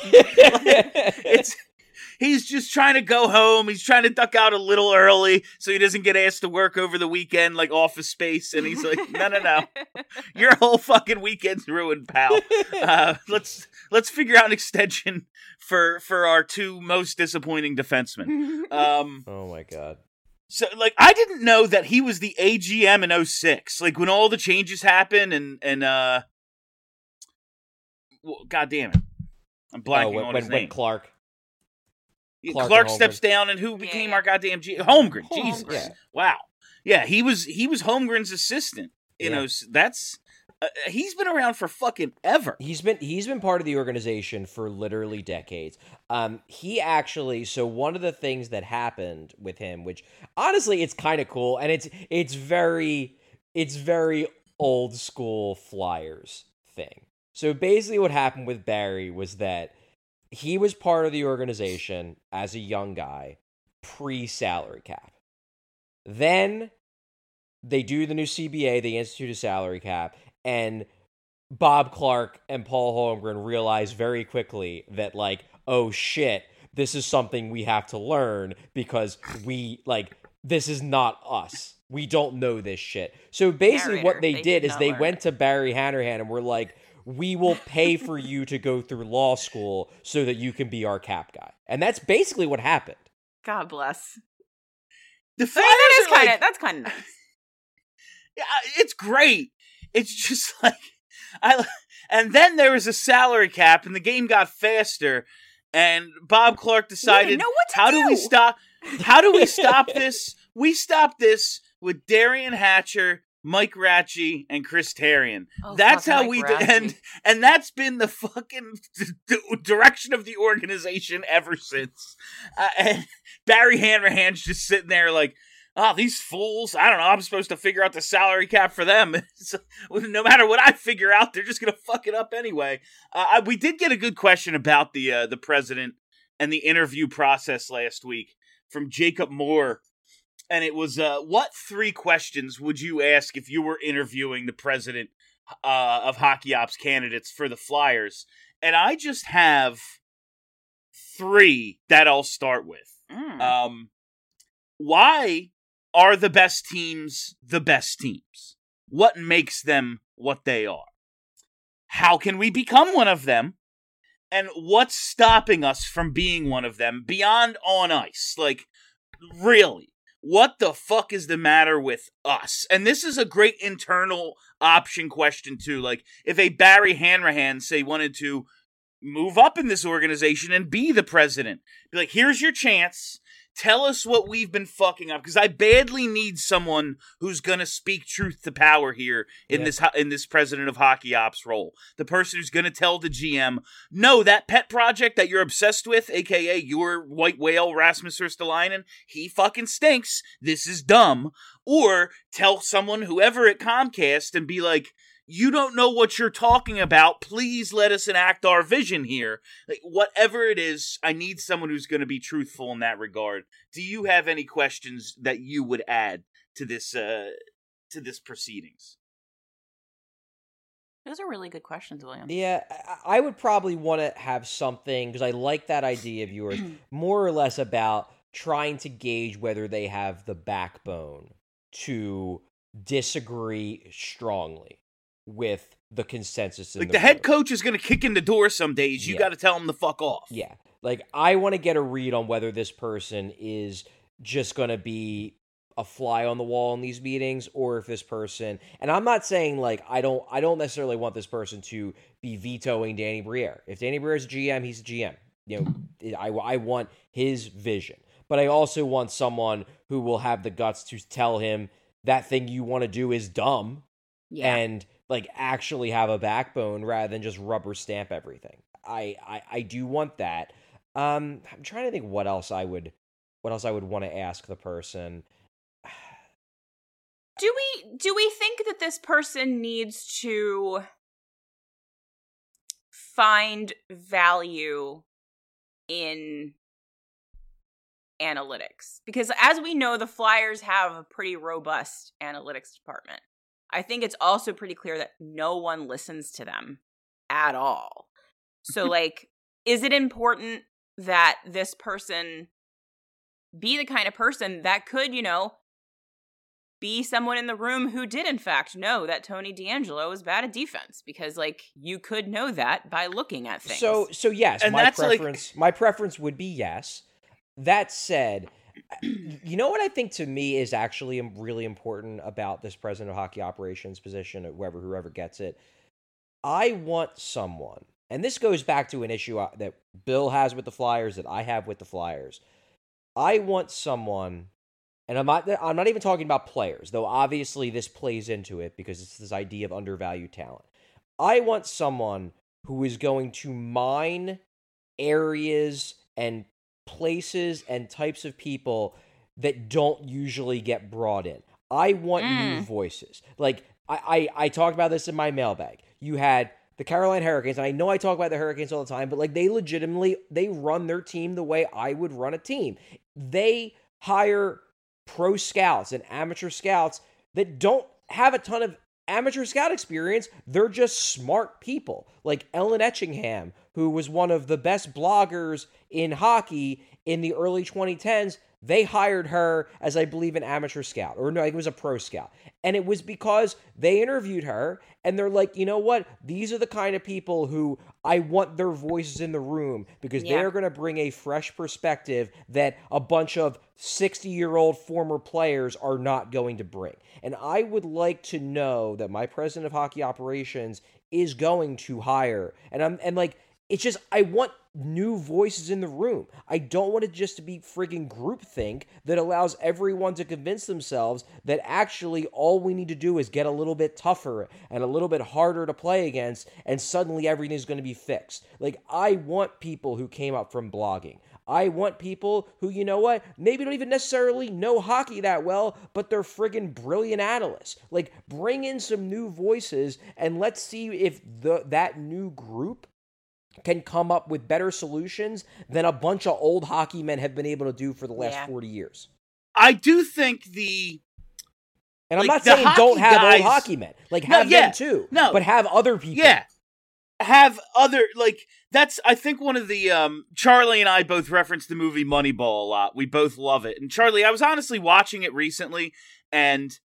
Speaker 3: it's he's just trying to go home. He's trying to duck out a little early so he doesn't get asked to work over the weekend, like Office Space. And he's like, no, no, no, your whole fucking weekend's ruined, pal. Uh, let's let's figure out an extension for for our two most disappointing defensemen. Um,
Speaker 4: oh my god.
Speaker 3: So, like, I didn't know that he was the A G M in oh six. Like, when all the changes happened and, and uh... Well, God damn it. I'm blanking
Speaker 4: oh, when,
Speaker 3: on
Speaker 4: when,
Speaker 3: his
Speaker 4: when
Speaker 3: name.
Speaker 4: Clark...
Speaker 3: Clark,
Speaker 4: Clark
Speaker 3: steps down, and who became
Speaker 5: yeah.
Speaker 3: our goddamn G... Holmgren.
Speaker 4: Holmgren.
Speaker 3: Jesus.
Speaker 4: Yeah.
Speaker 3: Wow. Yeah, he was he was Holmgren's assistant. You
Speaker 4: Yeah.
Speaker 3: know, that's... Uh, he's been around for fucking ever.
Speaker 4: He's been he's been part of the organization for literally decades. Um, he actually so one of the things that happened with him, which honestly it's kind of cool, and it's it's very it's very old school Flyers thing. So basically, what happened with Barry was that he was part of the organization as a young guy, pre-salary cap. Then they do the new C B A, they institute a salary cap. And Bob Clark and Paul Holmgren realize very quickly that, like, oh shit, this is something we have to learn because we, like, this is not us. We don't know this shit. So basically
Speaker 5: Narrator,
Speaker 4: what they,
Speaker 5: they
Speaker 4: did
Speaker 5: did
Speaker 4: is
Speaker 5: not
Speaker 4: they
Speaker 5: learn.
Speaker 4: went to Barry Hanrahan and were like, we will pay for you to go through law school so that you can be our cap guy. And that's basically what happened.
Speaker 5: God bless.
Speaker 3: The
Speaker 5: I
Speaker 3: Flyers
Speaker 5: mean, that is
Speaker 3: are
Speaker 5: kind of
Speaker 3: like,
Speaker 5: that's kind of nice.
Speaker 3: yeah, it's great. It's just like I and then there was a salary cap and the game got faster and Bob Clark decided
Speaker 5: know what to
Speaker 3: how do.
Speaker 5: do
Speaker 3: we stop how do we stop this? We stop this with Darian Hatcher, Mike Ratchie, and Chris Therien.
Speaker 5: Oh,
Speaker 3: that's
Speaker 5: fuck
Speaker 3: how
Speaker 5: Mike
Speaker 3: we do,
Speaker 5: Ratchie.
Speaker 3: and and that's been the fucking d- d- direction of the organization ever since. Uh, and Barry Hanrahan's just sitting there like, oh, these fools, I don't know, I'm supposed to figure out the salary cap for them. So, no matter what I figure out, they're just going to fuck it up anyway. Uh, I, we did get a good question about the uh, the president and the interview process last week from Jacob Moore. And it was, uh, what three questions would you ask if you were interviewing the president uh, of Hockey Ops candidates for the Flyers? And I just have three that I'll start with.
Speaker 5: Mm.
Speaker 3: Um, why are the best teams the best teams? what makes them what they are? How can we become one of them? And what's stopping us from being one of them beyond on ice? Like, really, what the fuck is the matter with us? And this is a great internal option question, too. Like, if a Barry Hanrahan, say, wanted to move up in this organization and be the president, be like, here's your chance. Tell us what we've been fucking up, because I badly need someone who's gonna speak truth to power here in yeah. this in this president of hockey ops role. The person who's gonna tell the G M, no, that pet project that you're obsessed with, aka your white whale Rasmus Ristolainen, he fucking stinks. This is dumb. Or tell someone, whoever at Comcast, and be like, you don't know what you're talking about. Please let us enact our vision here. Like, whatever it is, I need someone who's going to be truthful in that regard. Do you have any questions that you would add to this uh, to this proceedings?
Speaker 5: Those are really good questions, William.
Speaker 4: Yeah, I would probably want to have something, because I like that idea of yours, more or less about trying to gauge whether they have the backbone to disagree strongly with the consensus in
Speaker 3: like
Speaker 4: the,
Speaker 3: the head
Speaker 4: room.
Speaker 3: coach is going to kick in the door some days. You
Speaker 4: yeah.
Speaker 3: got to tell him to fuck off.
Speaker 4: Yeah. Like, I want to get a read on whether this person is just going to be a fly on the wall in these meetings, or if this person, and I'm not saying like, I don't, I don't necessarily want this person to be vetoing Danny Briere. If Danny Briere is a G M, he's a G M. You know, I, I want his vision, but I also want someone who will have the guts to tell him that thing you want to do is dumb. Yeah. And like actually have a backbone rather than just rubber stamp everything. I, I, I do want that. Um, I'm trying to think what else I would, what else I would want to ask the person.
Speaker 5: Do we, do we think that this person needs to find value in analytics? Because as we know, the Flyers have a pretty robust analytics department. I think it's also pretty clear that no one listens to them at all. So, like, is it important that this person be the kind of person that could, you know, be someone in the room who did, in fact, know that Tony DeAngelo is bad at defense? Because, like, you could know that by looking at things.
Speaker 4: So, so yes, and my preference, like... my preference would be yes. That said, you know what I think to me is actually really important about this president of hockey operations position, or whoever whoever gets it. I want someone, and this goes back to an issue that Bill has with the Flyers, that I have with the Flyers. I want someone, and I'm not I'm not even talking about players, though obviously this plays into it because it's this idea of undervalued talent. I want someone who is going to mine areas and places and types of people that don't usually get brought in. I want mm. new voices. Like, I, I, I talked about this in my mailbag. You had the Carolina Hurricanes, and I know I talk about the Hurricanes all the time, but like they legitimately, they run their team the way I would run a team. They hire pro scouts and amateur scouts that don't have a ton of amateur scout experience. They're just smart people. Like Ellen Etchingham, who was one of the best bloggers in hockey in the early twenty tens, they hired her as, I believe, an amateur scout. Or no, it was a pro scout. And it was because they interviewed her, and they're like, you know what? These are the kind of people who I want their voices in the room, because yeah. they're going to bring a fresh perspective that a bunch of sixty-year-old former players are not going to bring. And I would like to know that my president of hockey operations is going to hire. And I'm and like, it's just, I want new voices in the room. I don't want it just to be friggin' groupthink that allows everyone to convince themselves that actually all we need to do is get a little bit tougher and a little bit harder to play against, and suddenly everything's going to be fixed. Like, I want people who came up from blogging. I want people who, you know what, maybe don't even necessarily know hockey that well, but they're friggin' brilliant analysts. Like, bring in some new voices, and let's see if the that new group can come up with better solutions than a bunch of old hockey men have been able to do for the last yeah. forty years.
Speaker 3: I do think the...
Speaker 4: And I'm
Speaker 3: like,
Speaker 4: not saying don't have
Speaker 3: guys,
Speaker 4: old hockey men. Like, have
Speaker 3: no, yeah,
Speaker 4: them too.
Speaker 3: No.
Speaker 4: But have other people.
Speaker 3: Yeah. Have other, like, that's, I think one of the, um, Charlie and I both referenced the movie Moneyball a lot. We both love it. And Charlie, I was honestly watching it recently, and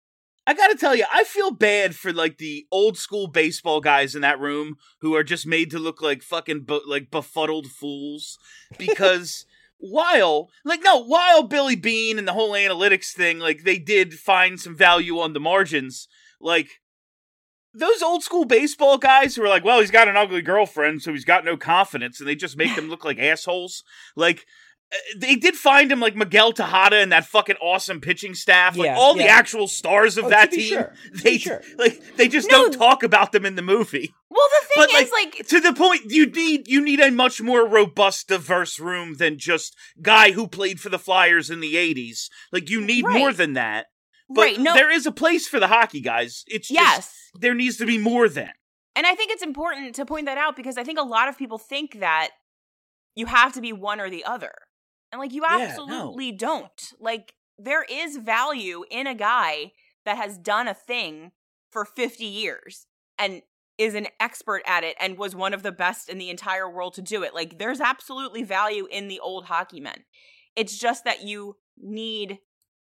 Speaker 3: I gotta tell you, I feel bad for like the old school baseball guys in that room who are just made to look like fucking bu- like befuddled fools because while like no while Billy Beane and the whole analytics thing, like they did find some value on the margins, like those old school baseball guys who are like, well, he's got an ugly girlfriend, so he's got no confidence, and they just make them look like assholes. Like, they did find him like Miguel Tejada and that fucking awesome pitching staff, like
Speaker 4: Yeah,
Speaker 3: all
Speaker 4: yeah.
Speaker 3: the actual stars of
Speaker 4: Oh,
Speaker 3: that
Speaker 4: to be
Speaker 3: team.
Speaker 4: sure. To
Speaker 3: They
Speaker 4: be sure.
Speaker 3: like they just
Speaker 5: No.
Speaker 3: don't talk about them in the movie.
Speaker 5: Well, the thing
Speaker 3: But
Speaker 5: is,
Speaker 3: like,
Speaker 5: like,
Speaker 3: to the point, you need you need a much more robust, diverse room than just guy who played for the Flyers in the eighties. Like you need
Speaker 5: Right.
Speaker 3: more than that. But
Speaker 5: right? No,
Speaker 3: there is a place for the hockey guys. It's just
Speaker 5: yes.
Speaker 3: there needs to be more than.
Speaker 5: And I think it's important to point that out because I think a lot of people think that you have to be one or the other. And like you
Speaker 3: Yeah, no.
Speaker 5: absolutely don't. Like there is value in a guy that has done a thing for fifty years and is an expert at it and was one of the best in the entire world to do it. Like there's absolutely value in the old hockey men. It's just that you need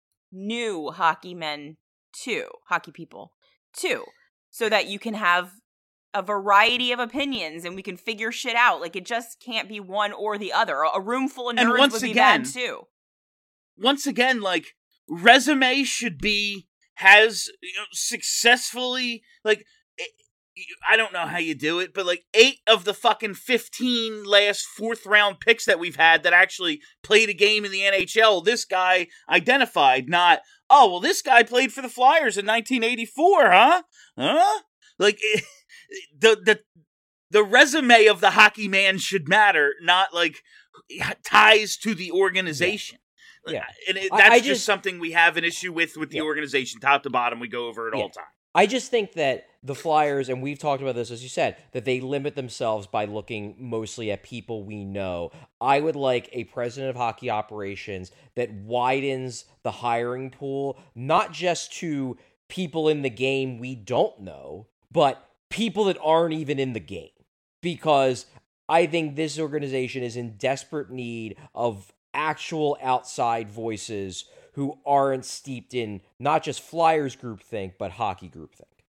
Speaker 5: new hockey men too, hockey people too, so that you can have a variety of opinions and we can figure shit out. Like it just can't be one or the other. A room full of
Speaker 3: And
Speaker 5: nerds
Speaker 3: once
Speaker 5: would be
Speaker 3: again-
Speaker 5: bad too.
Speaker 3: Once again, like resume should be has you know, successfully like eh, I don't know how you do it, but like eight of the fucking fifteen last fourth round picks that we've had that actually played a game in the N H L, this guy identified. Not oh well, this guy played for the Flyers in nineteen eighty-four, huh? Huh? Like eh, the the the resume of the hockey man should matter, not like ties to the organization.
Speaker 4: Yeah.
Speaker 3: And it,
Speaker 4: I-
Speaker 3: that's
Speaker 4: I
Speaker 3: just,
Speaker 4: just-
Speaker 3: something we have an issue with with the
Speaker 4: Yeah.
Speaker 3: organization, top to bottom. We go over it
Speaker 4: Yeah.
Speaker 3: all the time.
Speaker 4: I just think that the Flyers, and we've talked about this, as you said, that they limit themselves by looking mostly at people we know. I would like a president of hockey operations that widens the hiring pool, not just to people in the game we don't know, but people that aren't even in the game. Because I think this organization is in desperate need of actual outside voices who aren't steeped in not just Flyers groupthink, but hockey groupthink.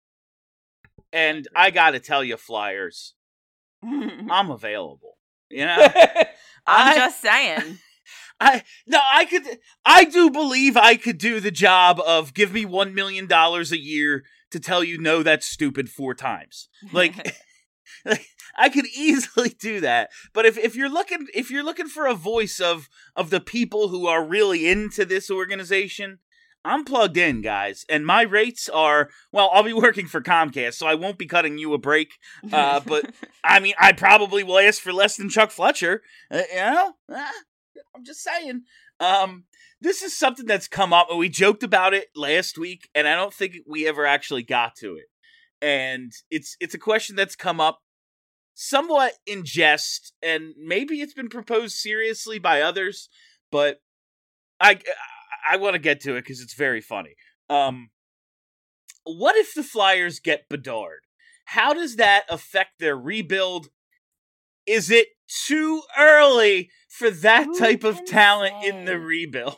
Speaker 3: And I got to tell you, Flyers, I'm available. You know,
Speaker 5: I'm
Speaker 3: I,
Speaker 5: just saying.
Speaker 3: I no, I could. I do believe I could do the job of give me one million dollars a year to tell you no, that's stupid four times. Like, like I could easily do that. But if, if you're looking if you're looking for a voice of of the people who are really into this organization, I'm plugged in, guys, and my rates are, well, I'll be working for Comcast, so I won't be cutting you a break. Uh, but I mean, I probably will ask for less than Chuck Fletcher. Uh, you know, ah, I'm just saying. Um, this is something that's come up, and we joked about it last week, and I don't think we ever actually got to it. And it's it's a question that's come up somewhat in jest, and maybe it's been proposed seriously by others, but I I want to get to it because it's very funny. Um, what if the Flyers get Bedard? How does that affect their rebuild? Is it too early for that
Speaker 5: Who
Speaker 3: type of
Speaker 5: can
Speaker 3: talent
Speaker 5: say?
Speaker 3: in the rebuild?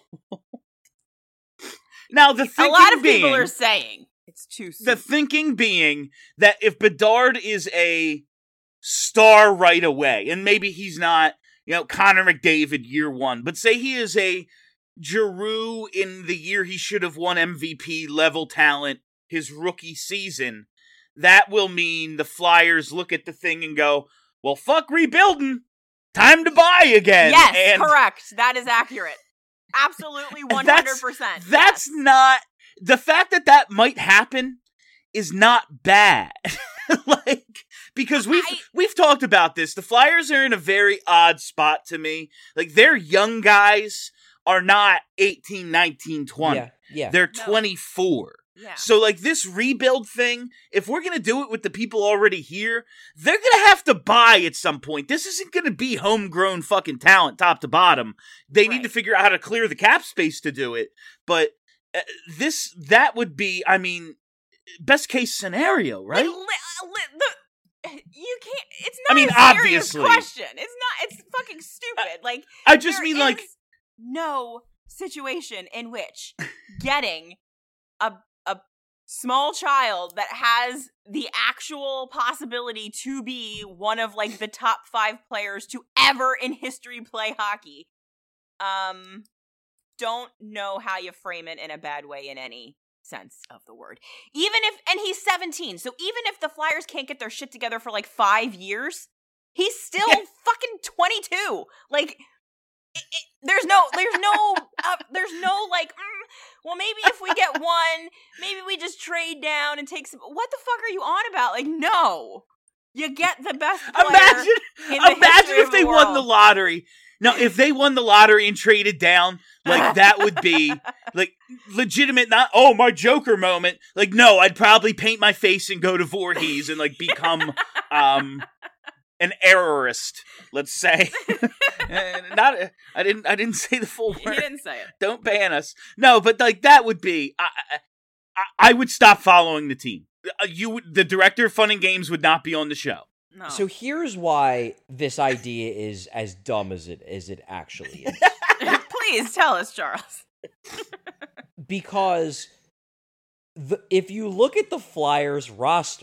Speaker 3: Now, the
Speaker 5: A
Speaker 3: thinking
Speaker 5: lot of
Speaker 3: being,
Speaker 5: people are saying it's too soon.
Speaker 3: the thinking being that if Bedard is a star right away, and maybe he's not, you know, Connor McDavid year one, but say he is a Giroux in the year he should have won M V P level talent his rookie season, that will mean the Flyers look at the thing and go, well, fuck rebuilding. Time to buy again.
Speaker 5: yes,
Speaker 3: and
Speaker 5: correct. That is accurate. Absolutely one hundred percent.
Speaker 3: That's
Speaker 5: yes.
Speaker 3: not, the fact that that might happen is not bad. Like, because we've
Speaker 5: I-
Speaker 3: we've talked about this. The Flyers are in a very odd spot to me. Like, their young guys are not eighteen, nineteen, twenty.
Speaker 4: Yeah, yeah.
Speaker 3: They're
Speaker 5: No.
Speaker 3: twenty-four.
Speaker 5: Yeah.
Speaker 3: So, like, this rebuild thing, if we're going to do it with the people already here, they're going to have to buy at some point. This isn't going to be homegrown fucking talent top to bottom. They need
Speaker 5: Right.
Speaker 3: to figure out how to clear the cap space to do it. But uh, this, that would be, I mean, best case scenario, right?
Speaker 5: Like, li- li- the, you can't. It's
Speaker 3: I
Speaker 5: not
Speaker 3: mean,
Speaker 5: a serious
Speaker 3: obviously.
Speaker 5: question. It's not. It's fucking stupid. Like
Speaker 3: I just
Speaker 5: there
Speaker 3: mean, like,
Speaker 5: is no situation in which getting a a small child that has the actual possibility to be one of like the top five players to ever in history play hockey. Um, don't know how you frame it in a bad way in any sense of the word. Even if, and he's seventeen, so even if the Flyers can't get their shit together for like five years, he's still
Speaker 3: Yeah.
Speaker 5: fucking twenty-two. Like, it, it, there's no, there's no, uh, there's no like, mm, well, maybe if we get one, maybe we just trade down and take some. What the fuck are you on about? Like, no, you get the best player.
Speaker 3: Imagine,
Speaker 5: in the
Speaker 3: imagine
Speaker 5: history
Speaker 3: if
Speaker 5: of
Speaker 3: they
Speaker 5: the
Speaker 3: won the
Speaker 5: world.
Speaker 3: lottery. Now, if they won the lottery and traded down, like that would be like legitimate. Not oh my Joker moment. Like no, I'd probably paint my face and go to Voorhees and like become um an errorist. Let's say. Not I didn't I didn't say the full
Speaker 5: He
Speaker 3: word.
Speaker 5: didn't say it.
Speaker 3: Don't ban us. No, but like that would be. I I, I would stop following the team. Uh, You would, the director of Fun and Games would not be on the show.
Speaker 5: No.
Speaker 4: So here's why this idea is as dumb as it as it actually is.
Speaker 5: Please tell us, Charles.
Speaker 4: Because the, if you look at the Flyers roster,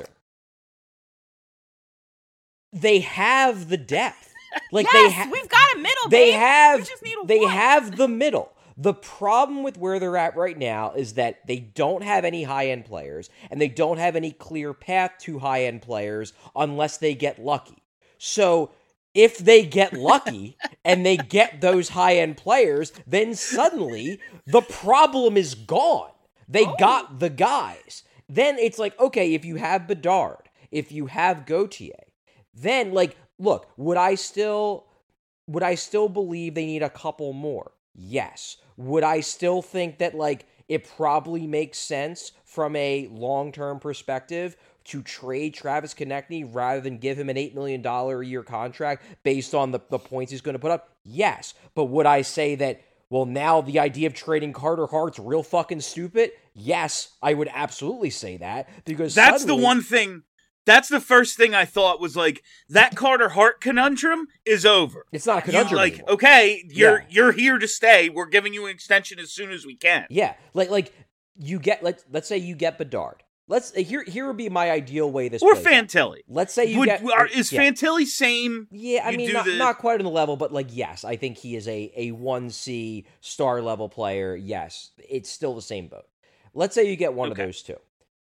Speaker 4: they have the depth. Like
Speaker 5: yes,
Speaker 4: they ha-
Speaker 5: we've got a middle.
Speaker 4: they
Speaker 5: babe.
Speaker 4: have
Speaker 5: We just need
Speaker 4: they
Speaker 5: one.
Speaker 4: have the middle. The problem with where they're at right now is that they don't have any high-end players, and they don't have any clear path to high-end players unless they get lucky. So if they get lucky and they get those high-end players, then suddenly the problem is gone. They
Speaker 5: Oh.
Speaker 4: got the guys. Then it's like, okay, if you have Bedard, if you have Gauthier, then like, look, would I still would I still believe they need a couple more? Yes. Would I still think that, like, it probably makes sense from a long-term perspective to trade Travis Konechny rather than give him an eight million dollars a year contract based on the, the points he's going to put up? Yes. But would I say that, well, now the idea of trading Carter Hart's real fucking stupid? Yes, I would absolutely say that. Because
Speaker 3: That's
Speaker 4: suddenly,
Speaker 3: the one thing. That's the first thing I thought was like, that Carter Hart conundrum is over.
Speaker 4: It's not a
Speaker 3: You,
Speaker 4: conundrum
Speaker 3: like,
Speaker 4: anymore.
Speaker 3: okay, you're
Speaker 4: Yeah.
Speaker 3: you're here to stay. We're giving you an extension as soon as we can.
Speaker 4: Yeah, like like you get let's let's say you get Bedard. Let's here here would be my ideal way this
Speaker 3: Or
Speaker 4: plays out.
Speaker 3: Fantilli.
Speaker 4: Let's say you
Speaker 3: Would,
Speaker 4: get
Speaker 3: are, is
Speaker 4: yeah.
Speaker 3: Fantilli same?
Speaker 4: Yeah, I
Speaker 3: you
Speaker 4: mean
Speaker 3: do
Speaker 4: not,
Speaker 3: the-
Speaker 4: not quite on the level, but like yes, I think he is a a one C star level player. Yes, it's still the same boat. Let's say you get one
Speaker 3: Okay.
Speaker 4: of those two.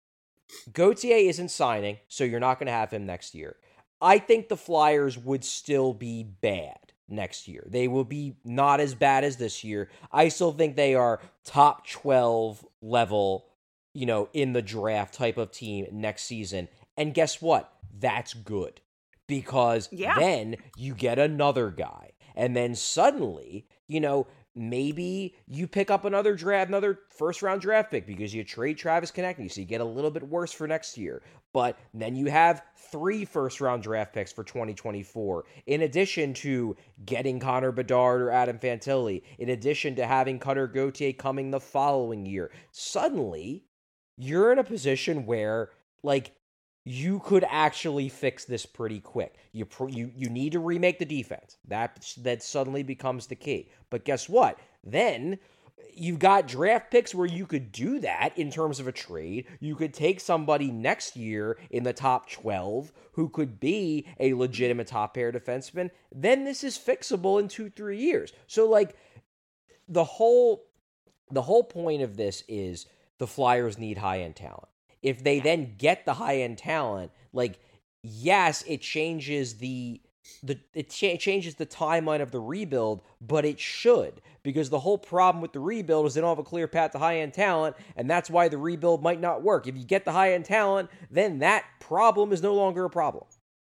Speaker 4: Gauthier isn't signing, so you're not going to have him next year. I think the Flyers would still be bad next year. They will be not as bad as this year. I still think they are top twelve level, you know, in the draft type of team next season. And guess what? That's good. Because
Speaker 5: Yeah.
Speaker 4: then you get another guy. And then suddenly, you know, maybe you pick up another draft, another first round draft pick because you trade Travis Konechny, so you get a little bit worse for next year. But then you have three first round draft picks for twenty twenty-four, in addition to getting Connor Bedard or Adam Fantilli, in addition to having Cutter Gauthier coming the following year. Suddenly, you're in a position where, like, you could actually fix this pretty quick. You pr- you you need to remake the defense. That that suddenly becomes the key. But guess what? Then you've got draft picks where you could do that in terms of a trade. You could take somebody next year in the top twelve who could be a legitimate top pair defenseman. Then this is fixable in two, three years. So like the whole the whole point of this is the Flyers need high-end talent. If they then get the high-end talent, like, yes, it changes the the it cha- changes the timeline of the rebuild, but it should, because the whole problem with the rebuild is they don't have a clear path to high-end talent, and that's why the rebuild might not work. If you get the high-end talent, then that problem is no longer a problem.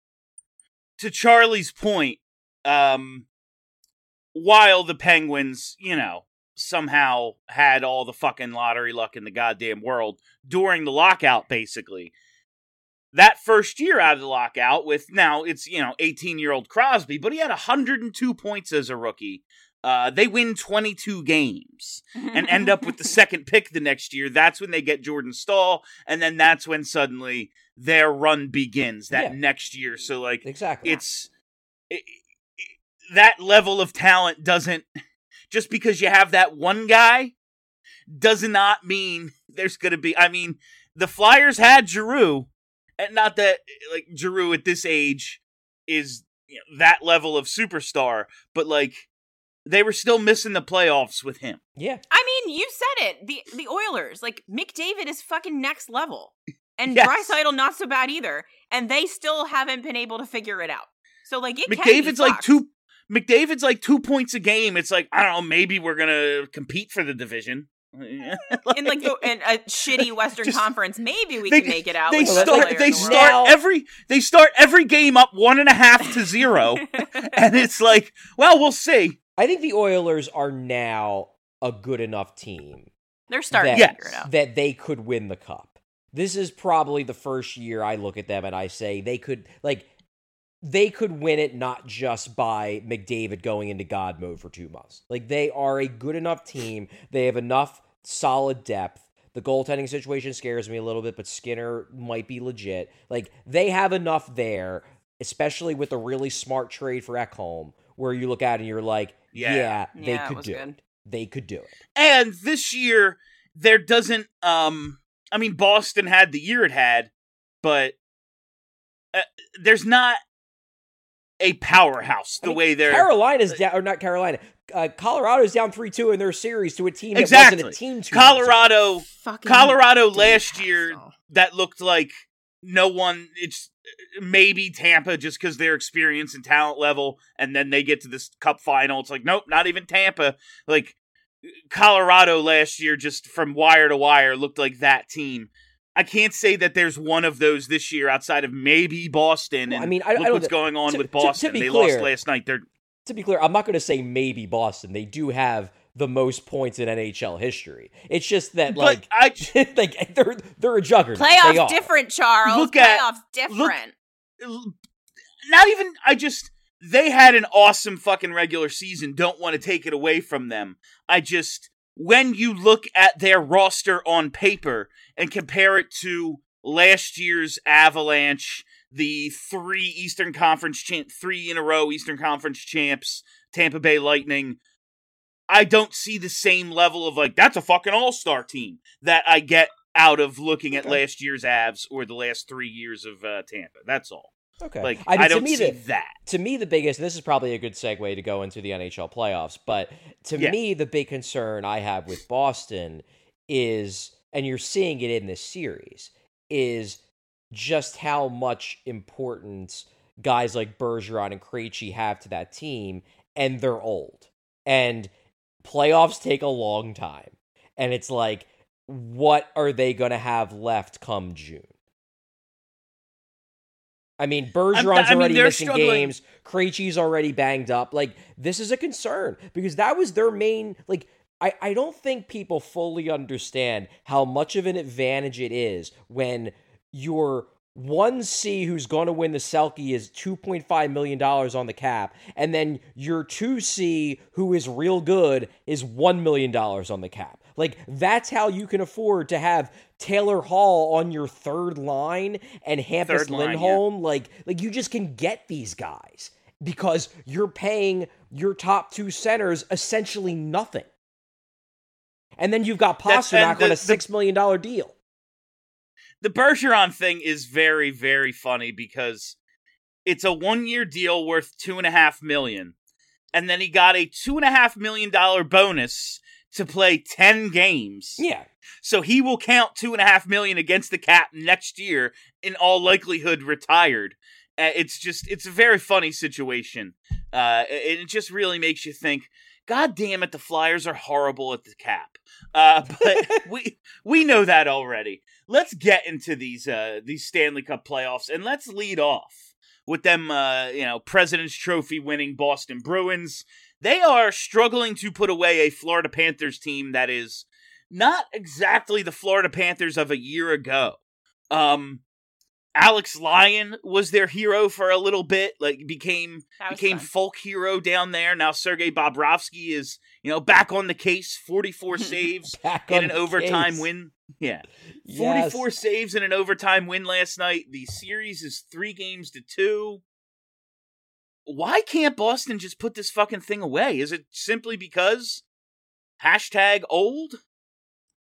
Speaker 3: To Charlie's point, um, while the Penguins, you know, somehow had all the fucking lottery luck in the goddamn world during the lockout, basically. That first year out of the lockout with, now it's, you know, eighteen-year-old Crosby, but he had one hundred two points as a rookie. Uh, they win twenty-two games and end up with the second pick the next year. That's when they get Jordan Stahl, and then that's when suddenly their run begins that
Speaker 4: Yeah.
Speaker 3: next year. So, like,
Speaker 4: Exactly.
Speaker 3: it's it, it, that level of talent doesn't, just because you have that one guy does not mean there's going to be, I mean, the Flyers had Giroux, and not that like Giroux at this age is you know, that level of superstar, but like they were still missing the playoffs with him.
Speaker 4: Yeah.
Speaker 5: I mean, you said it. The the Oilers, like McDavid is fucking next level. And
Speaker 3: Yes.
Speaker 5: Draisaitl not so bad either. And they still haven't been able to figure it out. So like it can be
Speaker 3: McDavid's like
Speaker 5: fucked.
Speaker 3: two McDavid's like two points a game. It's like, I don't know, maybe we're gonna compete for the division.
Speaker 5: in like the, in a shitty Western
Speaker 3: Just-
Speaker 5: Conference, maybe we
Speaker 3: they,
Speaker 5: can make it out.
Speaker 3: They
Speaker 5: with the best
Speaker 3: start
Speaker 5: player
Speaker 3: they
Speaker 5: in the world.
Speaker 3: start
Speaker 4: Now-
Speaker 3: every they start every game up one and a half to zero. And it's like, well, we'll see.
Speaker 4: I think the Oilers are now a good enough team
Speaker 5: They're starting
Speaker 4: that,
Speaker 5: to figure it out.
Speaker 4: that they could win the cup. This is probably the first year I look at them and I say they could, like, they could win it not just by McDavid going into God mode for two months. Like, they are a good enough team. They have enough solid depth. The goaltending situation scares me a little bit, but Skinner might be legit. Like, they have enough there, especially with a really smart trade for Ekholm, where you look at it and you're like,
Speaker 3: Yeah.
Speaker 4: yeah, they
Speaker 5: Yeah, it
Speaker 4: could
Speaker 5: was
Speaker 4: do
Speaker 5: good.
Speaker 4: it. They could do it.
Speaker 3: And this year, there doesn't, um, I mean, Boston had the year it had, but uh, there's not a powerhouse the
Speaker 4: I mean,
Speaker 3: way they're.
Speaker 4: Carolina's down, or not Carolina. Uh, Colorado's down three two in their series to a team that
Speaker 3: Exactly.
Speaker 4: wasn't a team two years ago.
Speaker 3: Colorado,
Speaker 5: Fucking
Speaker 3: Colorado
Speaker 5: Dave
Speaker 3: last year,
Speaker 5: Hassel.
Speaker 3: that looked like no one, it's maybe Tampa just because their experience and talent level, and then they get to this cup final. It's like, nope, not even Tampa. Like, Colorado last year, just from wire to wire, looked like that team. I can't say that there's one of those this year outside of maybe Boston.
Speaker 4: Well,
Speaker 3: And
Speaker 4: I mean, I- I
Speaker 3: look
Speaker 4: don't
Speaker 3: what's
Speaker 4: thi-
Speaker 3: going on
Speaker 4: to-
Speaker 3: with
Speaker 4: to- to
Speaker 3: Boston.
Speaker 4: be
Speaker 3: They
Speaker 4: clear-
Speaker 3: lost last night. They're
Speaker 4: To be clear, I'm not going to say maybe Boston. They do have the most points in N H L history. It's just that,
Speaker 3: but
Speaker 4: like,
Speaker 3: I
Speaker 4: like they're they're a juggernaut. They
Speaker 5: Playoffs
Speaker 4: are.
Speaker 5: different, Charles.
Speaker 3: Look at-
Speaker 5: Playoffs different.
Speaker 3: not even I just they had an awesome fucking regular season. Don't want to take it away from them. I just when you look at their roster on paper and compare it to last year's Avalanche, the three Eastern Conference champ, three in a row Eastern Conference champs, Tampa Bay Lightning, I don't see the same level of like that's a fucking all-star team that I get out of looking at last year's Avs or the last three years of uh, Tampa. That's all.
Speaker 4: Okay.
Speaker 3: Like
Speaker 4: I
Speaker 3: I,
Speaker 4: mean, to
Speaker 3: don't
Speaker 4: me
Speaker 3: see
Speaker 4: the-
Speaker 3: that.
Speaker 4: To me, the biggest, and this is probably a good segue to go into the N H L playoffs, but to
Speaker 3: Yeah.
Speaker 4: me, the big concern I have with Boston is, and you're seeing it in this series, is just how much importance guys like Bergeron and Krejci have to that team, and they're old. And playoffs take a long time. And it's like, what are they going to have left come June? I mean, Bergeron's
Speaker 3: I mean,
Speaker 4: already
Speaker 3: they're
Speaker 4: missing
Speaker 3: struggling.
Speaker 4: games. Krejci's already banged up. Like, this is a concern because that was their main, like, I, I don't think people fully understand how much of an advantage it is when your one C who's going to win the Selke is two point five million dollars on the cap, and then your two C who is real good is one million dollars on the cap. Like, that's how you can afford to have Taylor Hall on your third line and Hampus
Speaker 3: Third line,
Speaker 4: Lindholm. Like, like you just can get these guys because you're paying your top two centers essentially nothing. And then you've got
Speaker 3: That's- and
Speaker 4: Pasternak
Speaker 3: the-
Speaker 4: on a
Speaker 3: the-
Speaker 4: six million dollars deal.
Speaker 3: The Bergeron thing is very, very funny because it's a one-year deal worth two and a half million, and then he got a two and a half million dollar bonus to play ten games.
Speaker 4: Yeah.
Speaker 3: So he will count two and a half million against the cap next year, in all likelihood retired. Uh, it's just, it's a very funny situation. Uh, and it just really makes you think, God damn it, the Flyers are horrible at the cap. Uh, but we we know that already. Let's get into these uh, these Stanley Cup playoffs, and let's lead off with them, uh, you know, President's Trophy winning Boston Bruins. They are struggling to put away a Florida Panthers team that is not exactly the Florida Panthers of a year ago. Um, Alex Lyon was their hero for a little bit, like became
Speaker 5: That was
Speaker 3: became
Speaker 5: fun.
Speaker 3: folk hero down there. Now Sergei Bobrovsky is, you know, back on the case, forty-four saves
Speaker 4: Back
Speaker 3: in
Speaker 4: on
Speaker 3: an
Speaker 4: the
Speaker 3: overtime
Speaker 4: case.
Speaker 3: win. Yeah.
Speaker 4: Yes.
Speaker 3: forty-four saves in an overtime win last night. The series is three games to two. Why can't Boston just put this fucking thing away? Is it simply because hashtag old?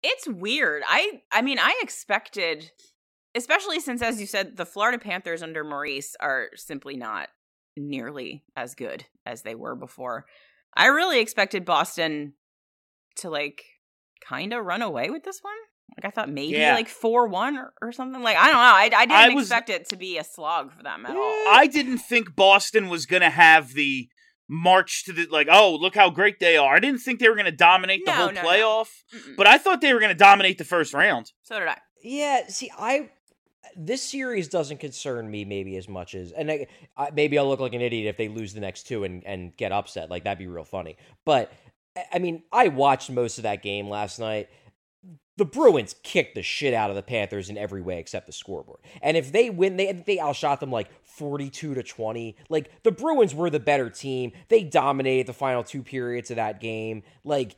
Speaker 5: It's weird. I I mean, I expected, especially since, as you said, the Florida Panthers under Maurice are simply not nearly as good as they were before. I really expected Boston to, like, kind of run away with this one. Like, I thought maybe,
Speaker 3: yeah.
Speaker 5: like, four one or, or something. Like, I don't know. I, I didn't
Speaker 3: I was,
Speaker 5: expect it to be a slog for them at all.
Speaker 3: I didn't think Boston was going to have the march to the, like, oh, look how great they are. I didn't think they were going to dominate the
Speaker 5: No,
Speaker 3: whole
Speaker 5: no,
Speaker 3: playoff,
Speaker 5: no. Mm-mm.
Speaker 3: but I thought they were going to dominate the first round.
Speaker 5: So did I.
Speaker 4: Yeah, see, I this series doesn't concern me maybe as much as, and I, I, maybe I'll look like an idiot if they lose the next two and, and get upset. Like, that'd be real funny. But, I mean, I watched most of that game last night. The Bruins kicked the shit out of the Panthers in every way except the scoreboard. And if they win, they they outshot them like forty-two to twenty. Like, the Bruins were the better team. They dominated the final two periods of that game. Like,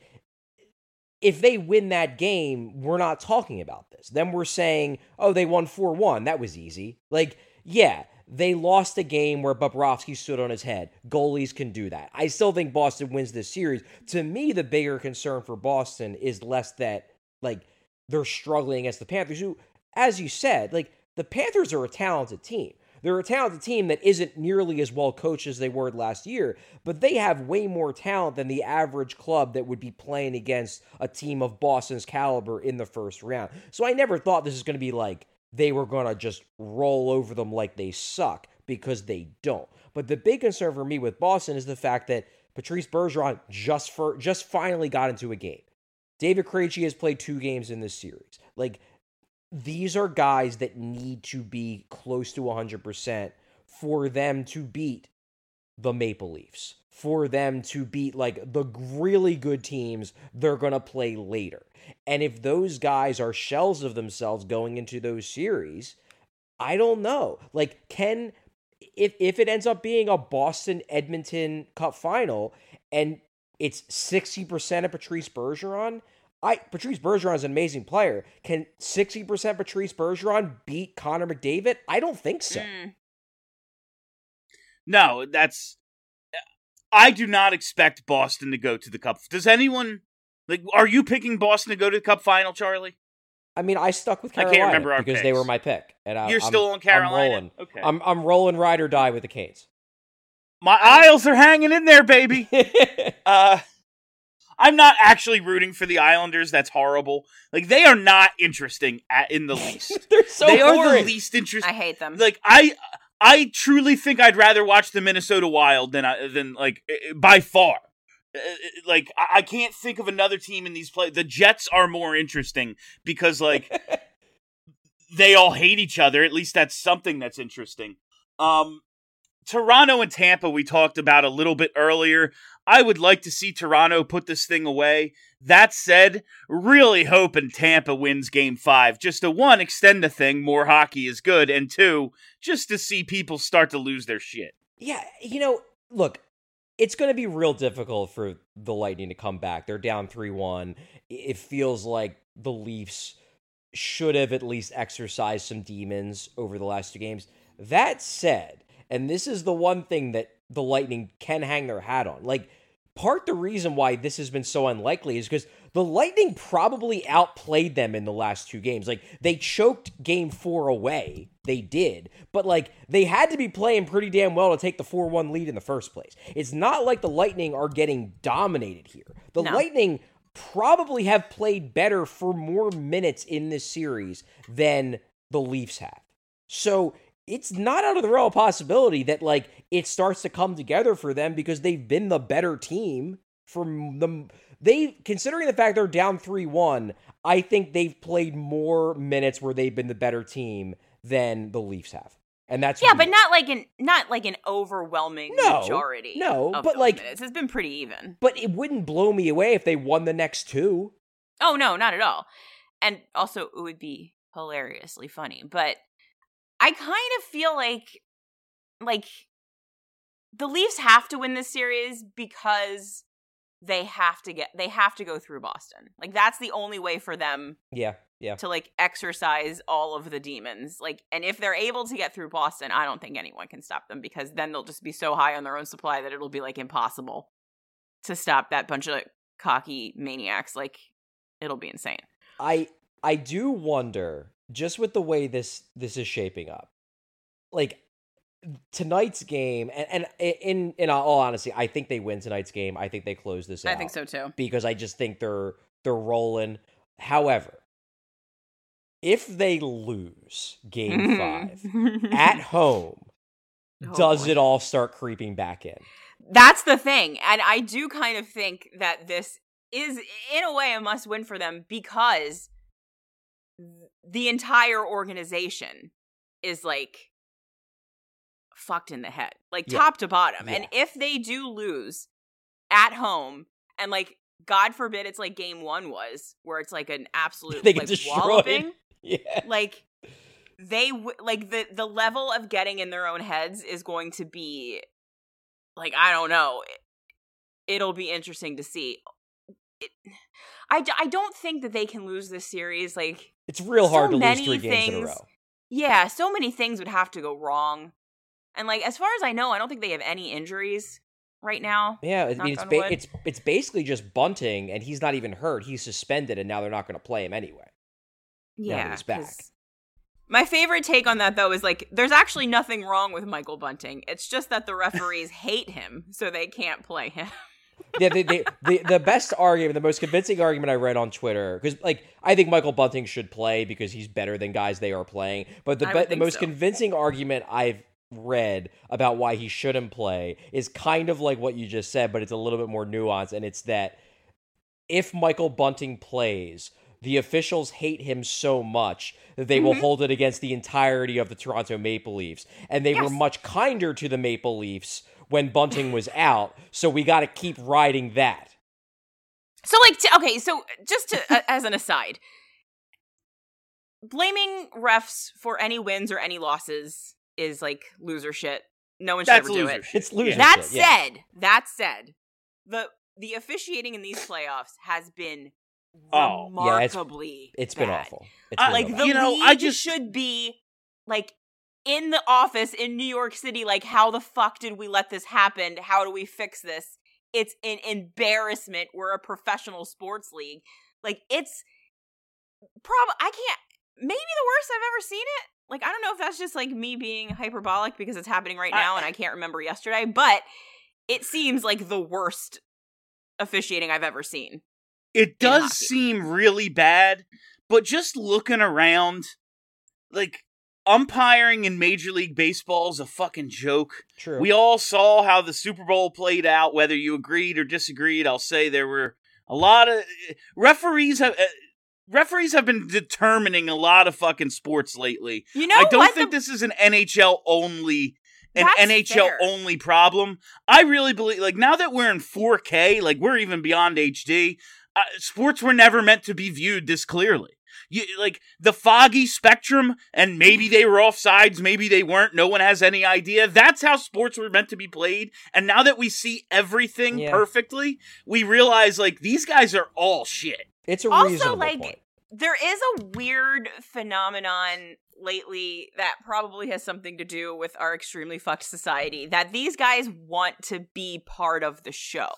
Speaker 4: if they win that game, we're not talking about this. Then we're saying, oh, they won four one. That was easy. Like, yeah, they lost a game where Bobrovsky stood on his head. Goalies can do that. I still think Boston wins this series. To me, the bigger concern for Boston is less that, like, they're struggling against the Panthers, who, as you said, like, the Panthers are a talented team. They're a talented team that isn't nearly as well coached as they were last year, but they have way more talent than the average club that would be playing against a team of Boston's caliber in the first round. So I never thought this was going to be like they were going to just roll over them like they suck, because they don't. But the big concern for me with Boston is the fact that Patrice Bergeron just for, just finally got into a game. David Krejci has played two games in this series. Like, these are guys that need to be close to one hundred percent for them to beat the Maple Leafs, for them to beat, like, the really good teams they're going to play later. And if those guys are shells of themselves going into those series, I don't know. Like, can, if, if it ends up being a Boston-Edmonton Cup final and it's sixty percent of Patrice Bergeron, I Patrice Bergeron is an amazing player. Can sixty percent Patrice Bergeron beat Connor McDavid? I don't think so.
Speaker 5: Mm.
Speaker 3: No, that's... I do not expect Boston to go to the Cup. Does anyone... Like, are you picking Boston to go to the Cup final, Charlie?
Speaker 4: I mean, I stuck with
Speaker 3: I can't
Speaker 4: Carolina
Speaker 3: remember our
Speaker 4: because
Speaker 3: picks.
Speaker 4: they were my pick. And I,
Speaker 3: You're
Speaker 4: I'm,
Speaker 3: still on Carolina?
Speaker 4: I'm rolling.
Speaker 3: Okay.
Speaker 4: I'm, I'm rolling ride or die with the Canes.
Speaker 3: My Isles are hanging in there, baby. uh, I'm not actually rooting for the Islanders. That's horrible. Like, they are not interesting at, in the least.
Speaker 4: They're so
Speaker 3: They
Speaker 4: boring.
Speaker 3: are the least interesting.
Speaker 5: I hate them.
Speaker 3: Like, I... I truly think I'd rather watch the Minnesota Wild than I, than like by far. Like, I can't think of another team in these play. The Jets are more interesting because, like, they all hate each other. At least that's something that's interesting. Um, Toronto and Tampa we talked about a little bit earlier. I would like to see Toronto put this thing away. That said, really hoping Tampa wins game five. Just to, one, extend the thing, more hockey is good, and two, just to see people start to lose their shit.
Speaker 4: Yeah, you know, look, it's going to be real difficult for the Lightning to come back. They're down three one. It feels like the Leafs should have at least exercised some demons over the last two games. That said, and this is the one thing that the Lightning can hang their hat on, like, part the reason why this has been so unlikely is because the Lightning probably outplayed them in the last two games. Like, they choked game four away. They did. But, like, they had to be playing pretty damn well to take the four one lead in the first place. It's not like the Lightning are getting dominated here. The
Speaker 5: No.
Speaker 4: Lightning probably have played better for more minutes in this series than the Leafs have. So it's not out of the realm of possibility that, like, it starts to come together for them because they've been the better team for them. They, considering the fact they're down three one, I think they've played more minutes where they've been the better team than the Leafs have. And that's
Speaker 5: yeah,
Speaker 4: real.
Speaker 5: but not like an not like an overwhelming
Speaker 4: No,
Speaker 5: majority.
Speaker 4: no,
Speaker 5: of
Speaker 4: but,
Speaker 5: those
Speaker 4: like-
Speaker 5: minutes. It's been pretty even.
Speaker 4: But it wouldn't blow me away if they won the next two.
Speaker 5: Oh no, not at all. And also, it would be hilariously funny. But I kind of feel like, like, the Leafs have to win this series because they have to get, they have to go through Boston. Like, that's the only way for them
Speaker 4: Yeah, yeah.
Speaker 5: to, like, exercise all of the demons. Like, and if they're able to get through Boston, I don't think anyone can stop them because then they'll just be so high on their own supply that it'll be, like, impossible to stop that bunch of cocky maniacs. Like, it'll be insane.
Speaker 4: I I do wonder, just with the way this this is shaping up, like tonight's game, and, and in in all honesty, I think they win tonight's game. I think they close this out.
Speaker 5: I think so too.
Speaker 4: Because I just think they're they're rolling. However, if they lose game five at home,
Speaker 5: Oh,
Speaker 4: does
Speaker 5: boy.
Speaker 4: it all start creeping back in?
Speaker 5: That's the thing. And I do kind of think that this is, in a way, a must win for them because the entire organization is like fucked in the head, like
Speaker 4: Yeah.
Speaker 5: top to bottom.
Speaker 4: Yeah.
Speaker 5: And if they do lose at home, and like, God forbid it's like game one was, where it's like an absolute
Speaker 4: They get
Speaker 5: like
Speaker 4: destroyed.
Speaker 5: walloping,
Speaker 4: Yeah.
Speaker 5: like they w- like the the level of getting in their own heads is going to be like, I don't know, it'll be interesting to see. It, I, d- I don't think that they can lose this series. Like,
Speaker 4: It's real
Speaker 5: so
Speaker 4: hard to lose
Speaker 5: many
Speaker 4: three games in a
Speaker 5: things-
Speaker 4: row.
Speaker 5: yeah, so many things would have to go wrong. And like, as far as I know, I don't think they have any injuries right now.
Speaker 4: Yeah, I
Speaker 5: Knock
Speaker 4: mean, it's
Speaker 5: on
Speaker 4: ba-
Speaker 5: wood.
Speaker 4: it's it's basically just Bunting, and he's not even hurt. He's suspended, and now they're not going to play him anyway. Now that
Speaker 5: Yeah,
Speaker 4: he's back.
Speaker 5: 'cause- My favorite take on that, though, is like, there's actually nothing wrong with Michael Bunting. It's just that the referees hate him, so they can't play him.
Speaker 4: Yeah, the, the, the, the best argument, the most convincing argument I read on Twitter, because like I think Michael Bunting should play because he's better than guys they are playing. But the
Speaker 5: I
Speaker 4: be-
Speaker 5: would
Speaker 4: the
Speaker 5: think
Speaker 4: most
Speaker 5: so.
Speaker 4: convincing argument I've read about why he shouldn't play is kind of like what you just said, but it's a little bit more nuanced, and it's that if Michael Bunting plays, the officials hate him so much that they will
Speaker 5: Mhm.
Speaker 4: hold it against the entirety of the Toronto Maple Leafs. And they were
Speaker 5: Yes.
Speaker 4: much kinder to the Maple Leafs when Bunting was out, so we got to keep riding that.
Speaker 5: So, like, t- okay, so just to, uh, as an aside, blaming refs for any wins or any losses is like loser shit. No one should
Speaker 3: That's
Speaker 5: ever do
Speaker 3: loser
Speaker 5: it.
Speaker 3: shit.
Speaker 4: It's loser
Speaker 3: Yeah.
Speaker 5: That
Speaker 4: shit, yeah.
Speaker 5: said, that said, the the officiating in these playoffs has been
Speaker 3: Oh.
Speaker 4: Yeah, it's-
Speaker 5: remarkably
Speaker 4: It's been
Speaker 5: bad.
Speaker 4: awful. It's
Speaker 3: I-
Speaker 4: been
Speaker 5: Like,
Speaker 4: real
Speaker 5: the
Speaker 4: bad.
Speaker 3: You know,
Speaker 5: league
Speaker 3: I just-
Speaker 5: should be like in the office in New York City. Like, how the fuck did we let this happen? How do we fix this? It's an embarrassment. We're a professional sports league. Like, it's probably, I can't, maybe the worst I've ever seen it. Like, I don't know if that's just like me being hyperbolic because it's happening right now and I can't remember yesterday, but it seems like the worst officiating I've ever seen.
Speaker 3: It does
Speaker 5: hockey.
Speaker 3: seem really bad, but just looking around, like, umpiring in Major League Baseball is a fucking joke.
Speaker 4: True.
Speaker 3: We all saw how the Super Bowl played out, whether you agreed or disagreed. I'll say there were a lot of referees have uh, referees have been determining a lot of fucking sports lately.
Speaker 5: You know
Speaker 3: I don't
Speaker 5: what?
Speaker 3: think
Speaker 5: The-
Speaker 3: this is an N H L only an
Speaker 5: That's
Speaker 3: N H L
Speaker 5: fair.
Speaker 3: only problem. I really believe, like, now that we're in four K, like, we're even beyond H D, uh, sports were never meant to be viewed this clearly. You, like, the foggy spectrum, and maybe they were offsides, maybe they weren't, no one has any idea. That's how sports were meant to be played. And now that we see everything
Speaker 4: Yeah.
Speaker 3: perfectly, we realize, like, these guys are all shit.
Speaker 4: It's a
Speaker 5: Also,
Speaker 4: reasonable
Speaker 5: like,
Speaker 4: point.
Speaker 5: there is a weird phenomenon lately that probably has something to do with our extremely fucked society, that these guys want to be part of the show.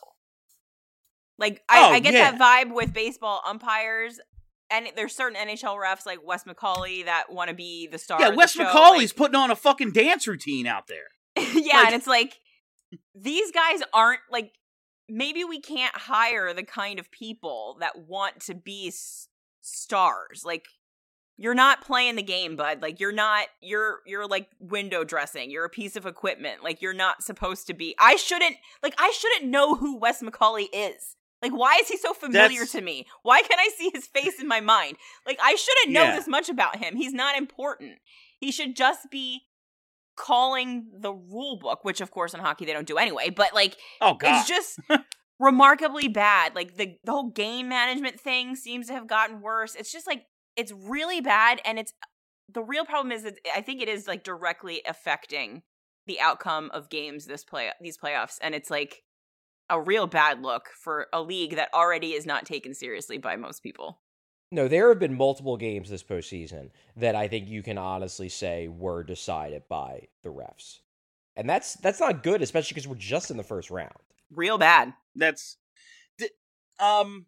Speaker 5: Like, I,
Speaker 3: Oh,
Speaker 5: I get
Speaker 3: yeah.
Speaker 5: that vibe with baseball umpires, and there's certain N H L refs like Wes McCauley that want to be the star
Speaker 3: Yeah,
Speaker 5: of the
Speaker 3: Wes
Speaker 5: show,
Speaker 3: McCauley's
Speaker 5: like-
Speaker 3: putting on a fucking dance routine out there.
Speaker 5: yeah,
Speaker 3: Like-
Speaker 5: and it's like, these guys aren't, like, maybe we can't hire the kind of people that want to be s- stars. Like, you're not playing the game, bud. Like, you're not, you're, you're like window dressing. You're a piece of equipment. Like, you're not supposed to be. I shouldn't, like, I shouldn't know who Wes McCauley is. Like, why is he so familiar
Speaker 3: That's-
Speaker 5: to me? Why can't I see his face in my mind? Like, I shouldn't know
Speaker 3: Yeah.
Speaker 5: this much about him. He's not important. He should just be calling the rule book, which of course in hockey they don't do anyway, but like,
Speaker 3: Oh, God.
Speaker 5: it's just remarkably bad. Like, the, the whole game management thing seems to have gotten worse. It's just like, it's really bad. And it's, the real problem is that I think it is like directly affecting the outcome of games this play, these playoffs. And it's like a real bad look for a league that already is not taken seriously by most people.
Speaker 4: No, there have been multiple games this postseason that I think you can honestly say were decided by the refs. And that's that's not good, especially because we're just in the first round.
Speaker 5: Real bad.
Speaker 3: That's th- um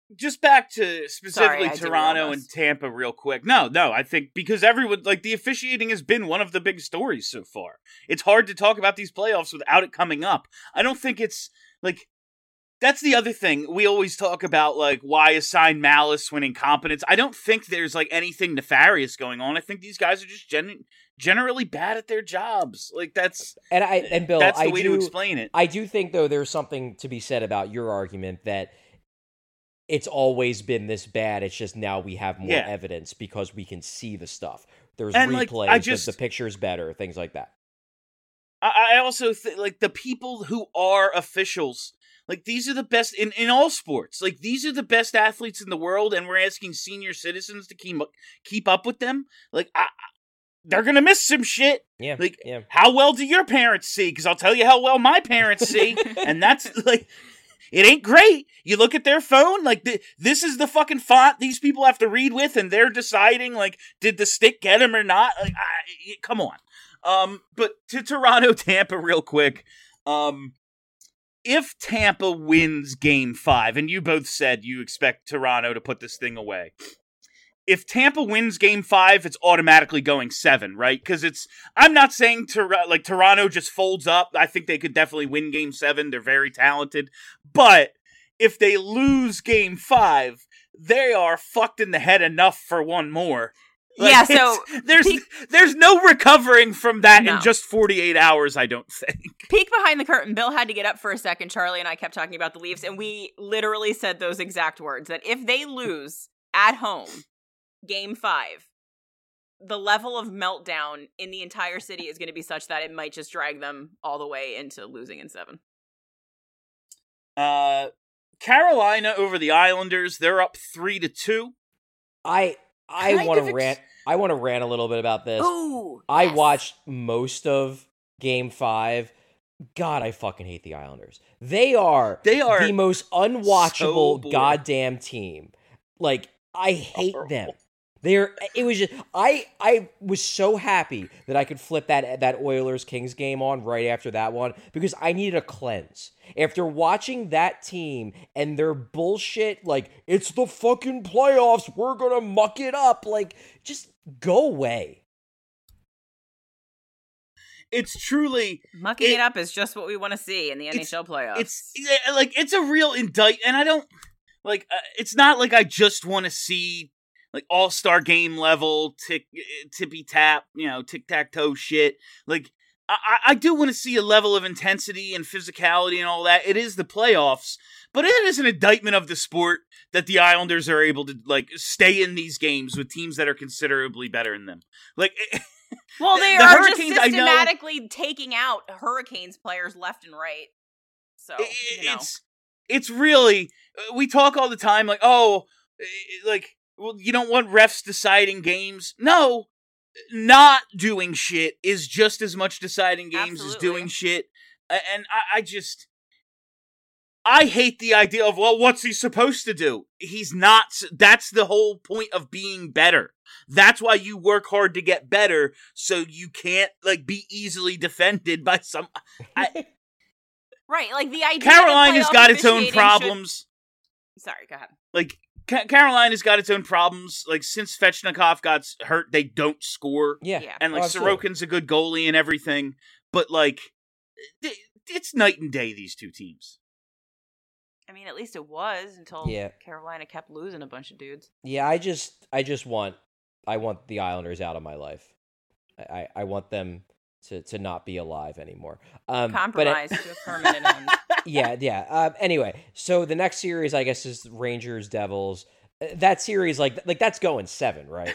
Speaker 3: just back to specifically
Speaker 5: Sorry,
Speaker 3: Toronto and Tampa real quick. No, no, I think because everyone, like, the officiating has been one of the big stories so far. It's hard to talk about these playoffs without it coming up. I don't think it's, like, that's the other thing. We always talk about, like, why assign malice when incompetence. I don't think there's, like, anything nefarious going on. I think these guys are just gen- generally bad at their jobs. Like, that's...
Speaker 4: And I and Bill,
Speaker 3: that's the
Speaker 4: I
Speaker 3: way
Speaker 4: do,
Speaker 3: to explain it.
Speaker 4: I do think, though, there's something to be said about your argument that it's always been this bad. It's just now we have more
Speaker 3: Yeah.
Speaker 4: evidence because we can see the stuff. There's
Speaker 3: And, like,
Speaker 4: replays,
Speaker 3: I
Speaker 4: the-
Speaker 3: just-
Speaker 4: the picture's better, things like that.
Speaker 3: I, I also think, like, the people who are officials, like, these are the best in, in all sports. Like, these are the best athletes in the world, and we're asking senior citizens to keep keep up with them. Like, I, I, they're gonna miss some shit.
Speaker 4: Yeah,
Speaker 3: Like,
Speaker 4: yeah.
Speaker 3: how well do your parents see? Because I'll tell you how well my parents see, and that's, like, it ain't great. You look at their phone, like, th- this is the fucking font these people have to read with, and they're deciding, like, did the stick get him or not? Like, I, come on. Um, but to Toronto, Tampa real quick. Um, if Tampa wins game five, and you both said you expect Toronto to put this thing away. If Tampa wins game five, it's automatically going seven, right? Because it's, I'm not saying Tor- like Toronto just folds up. I think they could definitely win game seven. They're very talented. But if they lose game five, they are fucked in the head enough for one more. Like,
Speaker 5: Yeah, so
Speaker 3: it's- there's
Speaker 5: peek-
Speaker 3: there's no recovering from that
Speaker 5: No.
Speaker 3: in just forty-eight hours, I don't think.
Speaker 5: Peek behind the curtain. Bill had to get up for a second. Charlie and I kept talking about the Leafs, and we literally said those exact words, that if they lose at home game five, the level of meltdown in the entire city is going to be such that it might just drag them all the way into losing in seven.
Speaker 3: Uh, Carolina over the Islanders. They're up three to two.
Speaker 4: I I
Speaker 3: Kind
Speaker 4: want
Speaker 3: of
Speaker 4: to
Speaker 3: ex-
Speaker 4: rant. I want to rant a little bit about this.
Speaker 5: Ooh,
Speaker 4: I
Speaker 5: yes.
Speaker 4: watched most of Game Five. God, I fucking hate the Islanders. They are
Speaker 3: They are
Speaker 4: the most
Speaker 3: so
Speaker 4: unwatchable
Speaker 3: boring.
Speaker 4: goddamn team. Like, I hate
Speaker 3: Horrible.
Speaker 4: them. They're. It was just. I. I was so happy that I could flip that that Oilers Kings game on right after that one because I needed a cleanse after watching that team and their bullshit. Like, it's the fucking playoffs. We're gonna muck it up. Like, just go away.
Speaker 3: It's truly
Speaker 5: Mucking it,
Speaker 3: It-
Speaker 5: up is just what we want to see in the N
Speaker 3: It's-
Speaker 5: H L playoffs.
Speaker 3: it's yeah, like it's a real indict, and I don't like. Uh, it's not like I just want to see like all star game level tick tippy tap, you know, tic tac toe shit. Like I, I- I do want to see a level of intensity and physicality and all that. It is the playoffs, but it is an indictment of the sport that the Islanders are able to like stay in these games with teams that are considerably better than them. Like.
Speaker 5: well, they
Speaker 3: the
Speaker 5: are
Speaker 3: Hurricanes,
Speaker 5: just
Speaker 3: I know-
Speaker 5: systematically taking out Hurricanes players left and right. So,
Speaker 3: I-
Speaker 5: you know.
Speaker 3: it's it's really we talk all the time like oh eh, like well you don't want refs deciding games. No, not doing shit is just as much deciding games as
Speaker 5: Absolutely.
Speaker 3: doing shit. A- And I, I just I hate the idea of well what's he supposed to do? He's not. s- That's the whole point of being better. That's why you work hard to get better so you can't like be easily defended by some. I,
Speaker 5: Right, like the idea
Speaker 3: Carolina's
Speaker 5: that playoff
Speaker 3: got its own
Speaker 5: officiating
Speaker 3: problems.
Speaker 5: Should... Sorry, go ahead.
Speaker 3: Like Ca- Carolina's got its own problems. Like since Svechnikov got s- hurt, they don't score,
Speaker 4: Yeah.
Speaker 5: Yeah.
Speaker 3: and like
Speaker 4: Oh, absolutely.
Speaker 3: Sorokin's a good goalie and everything. But like, th- it's night and day. These two teams.
Speaker 5: I mean, at least it was until
Speaker 4: Yeah.
Speaker 5: Carolina kept losing a bunch of dudes.
Speaker 4: Yeah, I just I just want I want the Islanders out of my life. I, I, I want them to, to not be alive anymore. Um, but it-
Speaker 5: Compromise to a permanent end.
Speaker 4: yeah, yeah. Um, anyway, so the next series, I guess, is Rangers Devils. Uh, That series, like like that's going seven, right?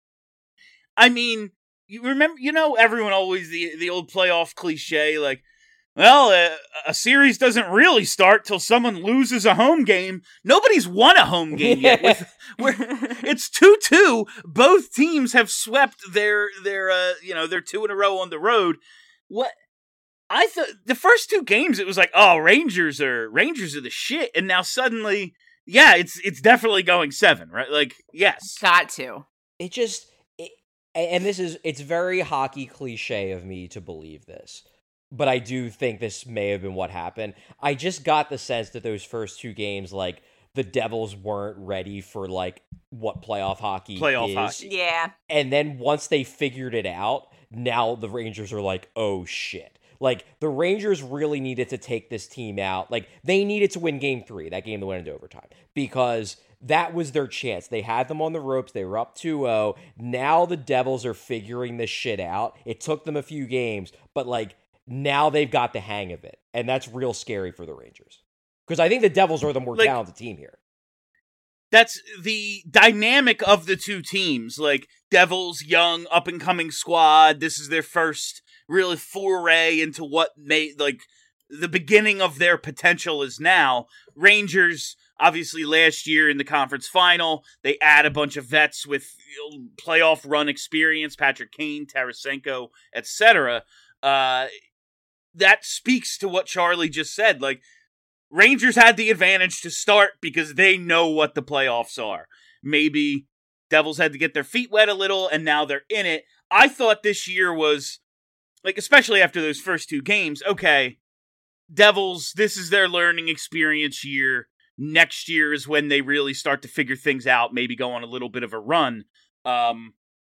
Speaker 3: I mean, you remember, you know, everyone always the the old playoff cliche, like, well, uh, a series doesn't really start till someone loses a home game. Nobody's won a home game yet. With, where it's two two. Both teams have swept their their uh, you know, their two in a row on the road. What I thought the first two games, it was like, oh, Rangers are Rangers are the shit, and now suddenly, yeah, it's it's definitely going seven, right? Like, yes,
Speaker 5: Got to.
Speaker 4: It just it, and this is it's very hockey cliche of me to believe this, but I do think this may have been what happened. I just got the sense that those first two games, like the Devils weren't ready for like what playoff hockey
Speaker 3: Playoff
Speaker 4: is.
Speaker 3: hockey.
Speaker 5: Yeah.
Speaker 4: And then once they figured it out, now the Rangers are like, oh shit. Like, the Rangers really needed to take this team out. Like, they needed to win game three, that game that went into overtime, because that was their chance. They had them on the ropes. They were up two oh. Now the Devils are figuring this shit out. It took them a few games, but, like, now they've got the hang of it. And that's real scary for the Rangers. Because I think the Devils are the more
Speaker 3: like,
Speaker 4: talented team here.
Speaker 3: That's the dynamic of the two teams. Like, Devils, young, up-and-coming squad. This is their first really foray into what may, like, the beginning of their potential is now. Rangers, obviously, last year in the conference final, they add a bunch of vets with you know, playoff run experience, Patrick Kane, Tarasenko, et cetera. Uh, that speaks to what Charlie just said. Like, Rangers had the advantage to start because they know what the playoffs are. Maybe Devils had to get their feet wet a little, and now they're in it. I thought this year was, like, especially after those first two games, okay, Devils, this is their learning experience year. Next year is when they really start to figure things out, maybe go on a little bit of a run. Um,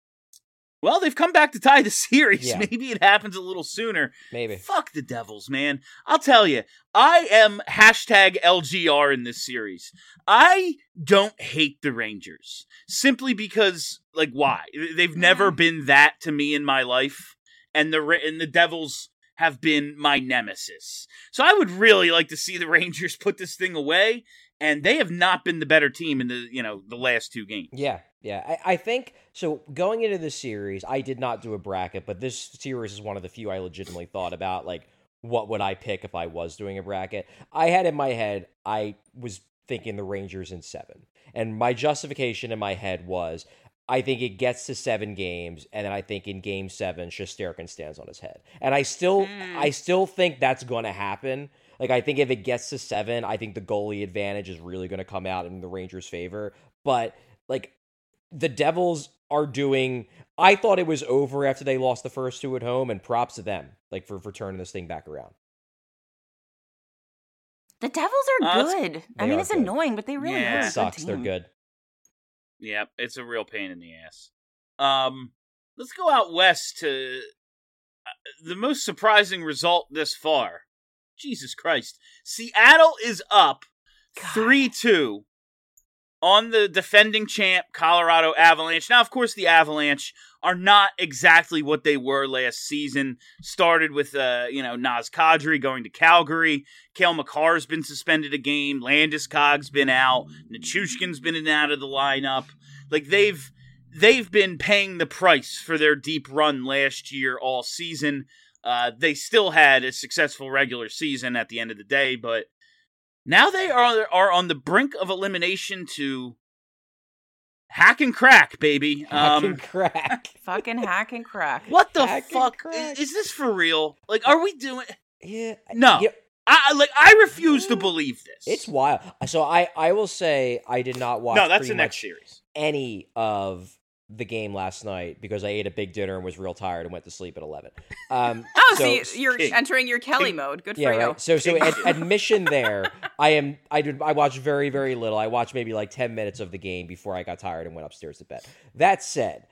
Speaker 3: well, they've come back to tie the series.
Speaker 4: Yeah.
Speaker 3: Maybe it happens a little sooner.
Speaker 4: Maybe.
Speaker 3: Fuck the Devils, man. I'll tell you, I am hashtag L G R in this series. I don't hate the Rangers. Simply because, like, why? They've never been that to me in my life. And the and the Devils have been my nemesis. So I would really like to see the Rangers put this thing away, and they have not been the better team in the, you know, the last two games.
Speaker 4: Yeah, yeah. I, I think, so going into this series, I did not do a bracket, but this series is one of the few I legitimately thought about, like, what would I pick if I was doing a bracket? I had in my head, I was thinking the Rangers in seven. And my justification in my head was, I think it gets to seven games, and then I think in game seven, Shesterkin stands on his head. And I still mm. I still think that's going to happen. Like, I think if it gets to seven, I think the goalie advantage is really going to come out in the Rangers' favor. But, like, the Devils are doing... I thought it was over after they lost the first two at home, and props to them, like, for, for turning this thing back around.
Speaker 5: The Devils are uh, good. I mean, it's good. Annoying, but they really
Speaker 3: yeah.
Speaker 5: are a
Speaker 4: It sucks.
Speaker 5: good
Speaker 4: They're
Speaker 5: team.
Speaker 4: good.
Speaker 3: Yeah, it's a real pain in the ass. Um, let's go out west to uh, the most surprising result this far. Jesus Christ. Seattle is up three two on the defending champ Colorado Avalanche. Now, of course, the Avalanche are not exactly what they were last season. Started with, uh, you know, Naz Kadri going to Calgary. Cale Makar's been suspended a game. Landeskog's been out. Nichushkin's been in and out of the lineup. Like, they've they've been paying the price for their deep run last year all season. Uh, they still had a successful regular season at the end of the day, but now they are are on the brink of elimination to hack and crack, baby.
Speaker 4: Hack
Speaker 3: um,
Speaker 4: and crack.
Speaker 5: Fucking hack and crack.
Speaker 3: What the
Speaker 4: Hack and
Speaker 3: fuck?
Speaker 4: crack.
Speaker 3: Is, is this for real? Like, are we doing...
Speaker 4: Yeah.
Speaker 3: No.
Speaker 4: Yeah.
Speaker 3: I I- like. I refuse to believe this.
Speaker 4: It's wild. So I, I will say I did not watch
Speaker 3: no. That's
Speaker 4: pretty
Speaker 3: the next
Speaker 4: much
Speaker 3: series.
Speaker 4: any of the game last night because I ate a big dinner and was real tired and went to sleep at eleven. Um,
Speaker 5: Oh,
Speaker 4: so,
Speaker 5: so, you're
Speaker 3: King.
Speaker 5: entering your Kelly
Speaker 3: King.
Speaker 5: mode. Good
Speaker 4: yeah,
Speaker 5: for you.
Speaker 4: right. So so ad- admission there. I am. I did. I watched very very little. I watched maybe like ten minutes of the game before I got tired and went upstairs to bed. That said,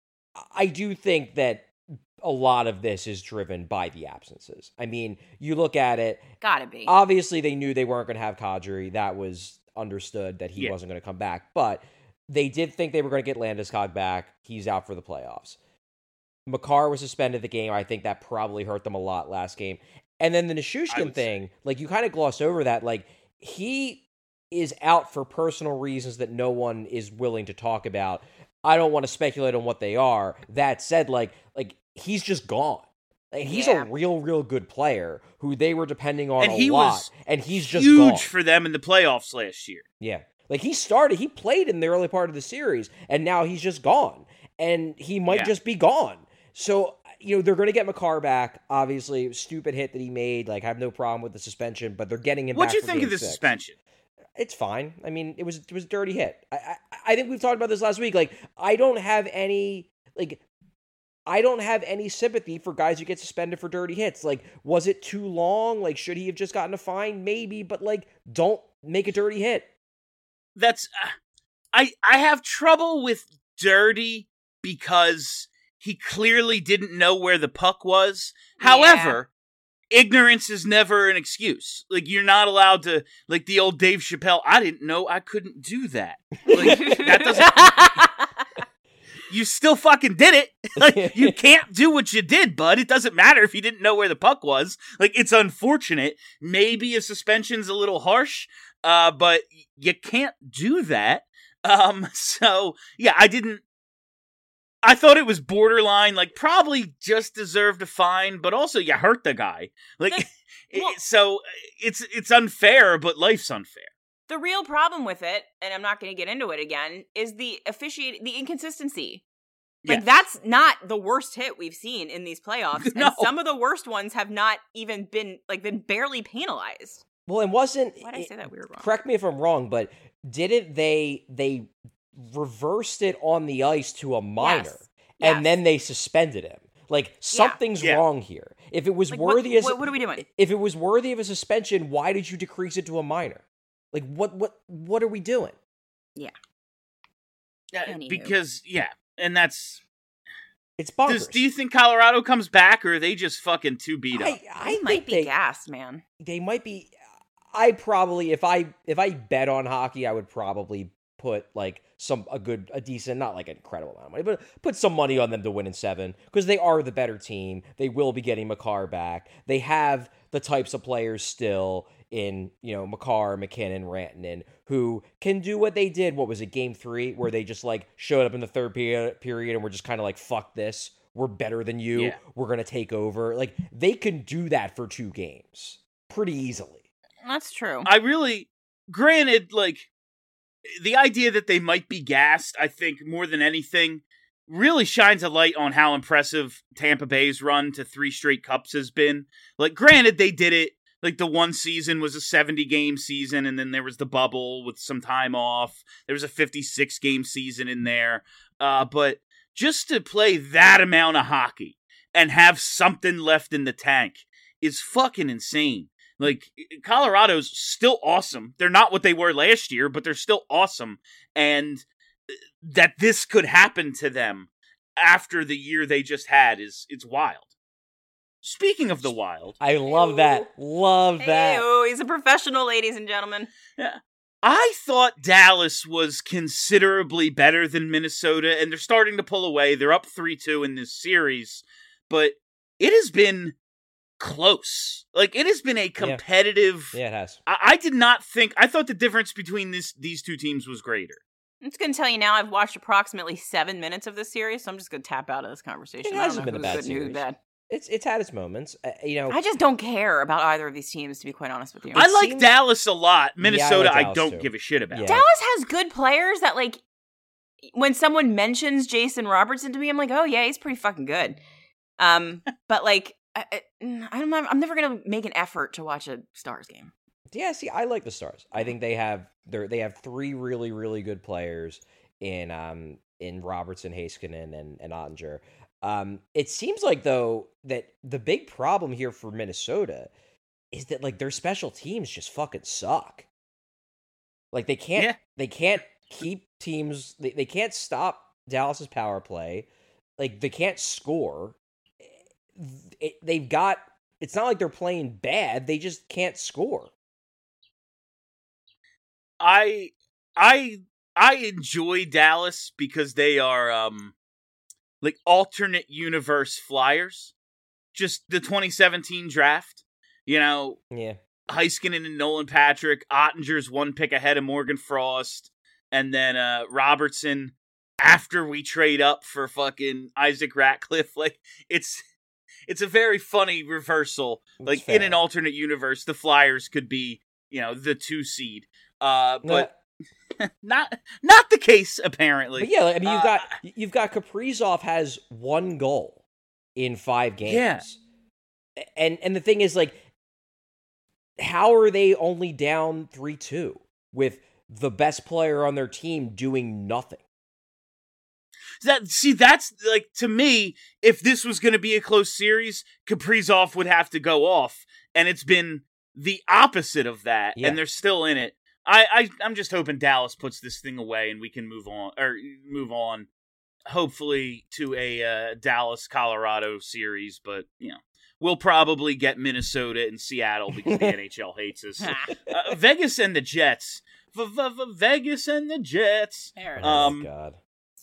Speaker 4: I do think that a lot of this is driven by the absences. I mean, you look at it.
Speaker 5: Gotta be.
Speaker 4: Obviously, they knew they weren't going to have Kadri. That was understood that he
Speaker 3: Yeah.
Speaker 4: wasn't going to come back. But they did think they were going to get Landeskog back. He's out for the playoffs. Makar was suspended the game. I think that probably hurt them a lot last game. And then the
Speaker 3: I
Speaker 4: Nichushkin
Speaker 3: would
Speaker 4: thing, like you kind of glossed over that. Like he is out for personal reasons that no one is willing to talk about. I don't want to speculate on what they are. That said, like like he's just gone. Like, he's
Speaker 5: Yeah.
Speaker 4: a real, real good player who they were depending on
Speaker 3: And
Speaker 4: a
Speaker 3: he
Speaker 4: lot,
Speaker 3: was
Speaker 4: and he's just
Speaker 3: Huge
Speaker 4: gone.
Speaker 3: for them in the playoffs last year.
Speaker 4: Yeah. Like, he started, he played in the early part of the series, and now he's just gone. And he might
Speaker 3: Yeah.
Speaker 4: just be gone. So, you know, they're going to get Makar back. Obviously, stupid hit that he made. Like, I have no problem with the suspension, but they're getting him
Speaker 3: What'd
Speaker 4: back
Speaker 3: you
Speaker 4: for
Speaker 3: think
Speaker 4: game
Speaker 3: of the
Speaker 4: six.
Speaker 3: suspension?
Speaker 4: It's fine. I mean, it was it was a dirty hit. I, I I think we've talked about this last week. Like, I don't have any, like, I don't have any sympathy for guys who get suspended for dirty hits. Like, was it too long? Like, should he have just gotten a fine? Maybe, but, like, don't make a dirty hit.
Speaker 3: that's uh, I I have trouble with dirty because he clearly didn't know where the puck was.
Speaker 5: Yeah.
Speaker 3: However, ignorance is never an excuse. Like, you're not allowed to, like the old Dave Chappelle, I didn't know I couldn't do that. Like, that doesn't... You still fucking did it. Like, you can't do what you did, bud. It doesn't matter if you didn't know where the puck was. Like, it's unfortunate. Maybe a suspension's a little harsh, uh, but you can't do that. Um, so, yeah, I didn't... I thought it was borderline, like, probably just deserved a fine, but also you hurt the guy. Like,
Speaker 5: well,
Speaker 3: it, so it's it's unfair, but life's unfair.
Speaker 5: The real problem with it, and I'm not going to get into it again, is the officiating, the inconsistency. Like,
Speaker 3: Yes.
Speaker 5: that's not the worst hit we've seen in these playoffs.
Speaker 3: No.
Speaker 5: And some of the worst ones have not even been, like, been barely penalized.
Speaker 4: Well, and wasn't...
Speaker 5: Why did I say that weird wrong?
Speaker 4: Correct me if I'm wrong, but didn't they... They reversed it on the ice to a minor,
Speaker 5: Yes.
Speaker 4: and
Speaker 5: Yes.
Speaker 4: then they suspended him. Like, something's
Speaker 3: Yeah.
Speaker 4: wrong here. If it was
Speaker 5: Like, what-
Speaker 4: worthy as
Speaker 5: what- what are we doing?
Speaker 4: If it was worthy of a suspension, why did you decrease it to a minor? Like, what what what are we doing?
Speaker 5: Yeah.
Speaker 3: Yeah,
Speaker 5: Anywho.
Speaker 3: because, yeah, and that's...
Speaker 4: It's bonkers.
Speaker 3: Does, do you think Colorado comes back, or are they just fucking too beat up?
Speaker 4: I, I
Speaker 5: They
Speaker 4: think
Speaker 5: might be
Speaker 4: they,
Speaker 5: gassed, man.
Speaker 4: they might be. I probably, if I if I bet on hockey, I would probably put like some a good a decent, not like an incredible amount of money, but put some money on them to win in seven, because they are the better team. They will be getting Makar back. They have the types of players still in, you know, Makar, McKinnon, Rantanen, who can do what they did. What was it, game three, where they just like showed up in the third period, period and were just kind of like, fuck this, we're better than you,
Speaker 3: Yeah.
Speaker 4: we're gonna take over. Like, they can do that for two games pretty easily.
Speaker 5: That's true.
Speaker 3: I really, granted, like, the idea that they might be gassed, I think, more than anything, really shines a light on how impressive Tampa Bay's run to three straight cups has been. Like, granted, they did it, like, the one season was a seventy-game season, and then there was the bubble with some time off. There was a fifty-six game season in there. Uh, but just to play that amount of hockey and have something left in the tank is fucking insane. Like, Colorado's still awesome. They're not what they were last year, but they're still awesome. And that this could happen to them after the year they just had is it's wild. Speaking of the wild,
Speaker 4: I love that. Love that.
Speaker 5: Ew, he's a professional, ladies and gentlemen.
Speaker 3: yeah, I thought Dallas was considerably better than Minnesota, and they're starting to pull away. They're up three two in this series, but it has been close. Like, it has been a competitive...
Speaker 4: Yeah, it has.
Speaker 3: I, I did not think... I thought the difference between this these two teams was greater.
Speaker 5: I'm just going to tell you now, I've watched approximately seven minutes of this series, so I'm just going to tap out of this conversation.
Speaker 4: It
Speaker 5: I don't
Speaker 4: hasn't
Speaker 5: know
Speaker 4: been a
Speaker 5: who's
Speaker 4: bad
Speaker 5: good and who's
Speaker 4: series.
Speaker 5: bad.
Speaker 4: It's it's had its moments. Uh, you know,
Speaker 5: I just don't care about either of these teams, to be quite honest with you.
Speaker 3: I like
Speaker 4: seems-
Speaker 3: Dallas a lot. Minnesota,
Speaker 4: like
Speaker 3: I,
Speaker 4: Dallas,
Speaker 3: don't
Speaker 4: too.
Speaker 3: give a shit about.
Speaker 4: Yeah.
Speaker 5: Dallas has good players that, like, when someone mentions Jason Robertson to me, I'm like, oh yeah, he's pretty fucking good. Um, but like, I, I, I'm not, I'm never gonna make an effort to watch a Stars game.
Speaker 4: yeah. See, I like the Stars. I think they have they they have three really really good players in um in Robertson, Heiskanen, and and Ottinger. Um, it seems like though that the big problem here for Minnesota is that like their special teams just fucking suck. Like they can't
Speaker 3: Yeah.
Speaker 4: they can't keep teams they, they can't stop Dallas's power play. Like they can't score. It, they've got it's not like they're playing bad, they just can't score.
Speaker 3: I I I enjoy Dallas because they are um like alternate universe Flyers. Just the twenty seventeen draft. You know,
Speaker 4: Yeah.
Speaker 3: Heiskanen and Nolan Patrick, Ottinger's one pick ahead of Morgan Frost, and then uh Robertson after we trade up for fucking Isaac Ratcliffe. Like, it's it's a very funny reversal.
Speaker 4: It's
Speaker 3: Like, in
Speaker 4: fair.
Speaker 3: an alternate universe, the Flyers could be, you know, the two seed. Uh, but
Speaker 4: No,
Speaker 3: not not the case, apparently.
Speaker 4: but yeah, like, I mean, you've
Speaker 3: Uh,
Speaker 4: got you've got Kaprizov has one goal in five games.
Speaker 3: Yeah.
Speaker 4: And and the thing is, like, how are they only down three two with the best player on their team doing nothing?
Speaker 3: That see, that's like, to me, if this was going to be a close series, Kaprizov would have to go off, and it's been the opposite of that,
Speaker 4: Yeah.
Speaker 3: and they're still in it. I, I I'm just hoping Dallas puts this thing away and we can move on or move on, hopefully to a uh, Dallas Colorado series. But you know, we'll probably get Minnesota and Seattle because the N H L hates us. Uh, Vegas and the Jets. Vegas and the Jets.
Speaker 5: There it is.
Speaker 3: Um,
Speaker 4: oh, God.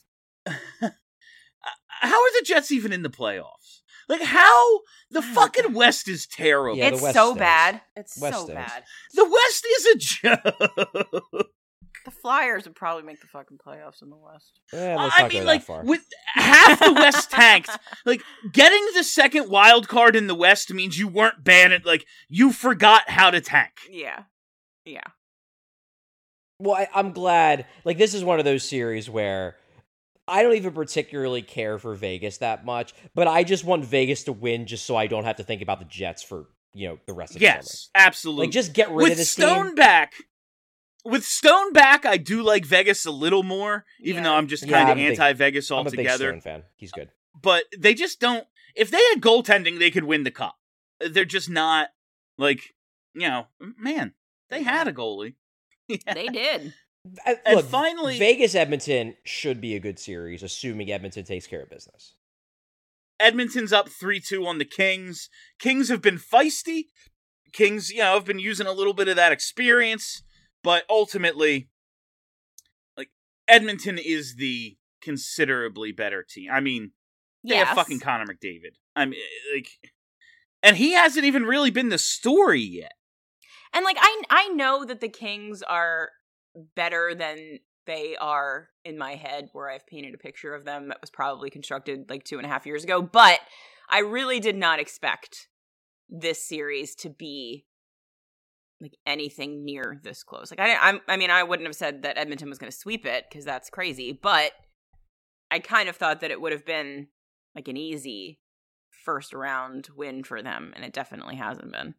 Speaker 3: How are the Jets even in the playoffs? Like, how? The fucking West is terrible.
Speaker 4: Yeah, the
Speaker 5: it's
Speaker 4: West
Speaker 5: so
Speaker 4: stinks.
Speaker 5: bad. It's
Speaker 4: West
Speaker 5: so
Speaker 4: stinks.
Speaker 5: bad.
Speaker 3: The West is a joke.
Speaker 5: The Flyers would probably make the fucking playoffs in the West.
Speaker 4: Eh, let's
Speaker 3: I
Speaker 4: not
Speaker 3: mean,
Speaker 4: go
Speaker 3: like,
Speaker 4: that far.
Speaker 3: with half the West tanked, like, getting the second wild card in the West means you weren't banned. Like, you forgot how to tank.
Speaker 5: Yeah. Yeah.
Speaker 4: Well, I, I'm glad. Like, this is one of those series where I don't even particularly care for Vegas that much, but I just want Vegas to win just so I don't have to think about the Jets for, you know, the rest of the
Speaker 3: Yes,
Speaker 4: summer.
Speaker 3: absolutely.
Speaker 4: Like, just get rid
Speaker 3: with
Speaker 4: of this
Speaker 3: Stone
Speaker 4: team.
Speaker 3: back, with Stone back, I do like Vegas a little more, even
Speaker 5: Yeah.
Speaker 3: though I'm just
Speaker 4: Yeah,
Speaker 3: kind of
Speaker 4: I'm a big-
Speaker 3: anti-Vegas
Speaker 4: I'm a big
Speaker 3: altogether.
Speaker 4: Stone fan. He's good.
Speaker 3: But they just don't. If they had goaltending, they could win the cup. They're just not like, you know, man. They had a goalie. Yeah.
Speaker 5: They did.
Speaker 4: I-
Speaker 3: And
Speaker 4: Look,
Speaker 3: finally-
Speaker 4: Vegas Edmonton should be a good series, assuming Edmonton takes care of business.
Speaker 3: Edmonton's up three two on the Kings. Kings have been feisty. Kings, you know, have been using a little bit of that experience, but ultimately, like, Edmonton is the considerably better team. I mean, they
Speaker 5: Yes.
Speaker 3: have fucking Connor McDavid. I mean, like, and he hasn't even really been the story yet.
Speaker 5: And like I I know that the Kings are better than they are in my head, where I've painted a picture of them that was probably constructed like two and a half years ago. But I really did not expect this series to be like anything near this close. Like I I'm, I mean I wouldn't have said that Edmonton was going to sweep it because that's crazy, but I kind of thought that it would have been like an easy first round win for them, and it definitely hasn't been.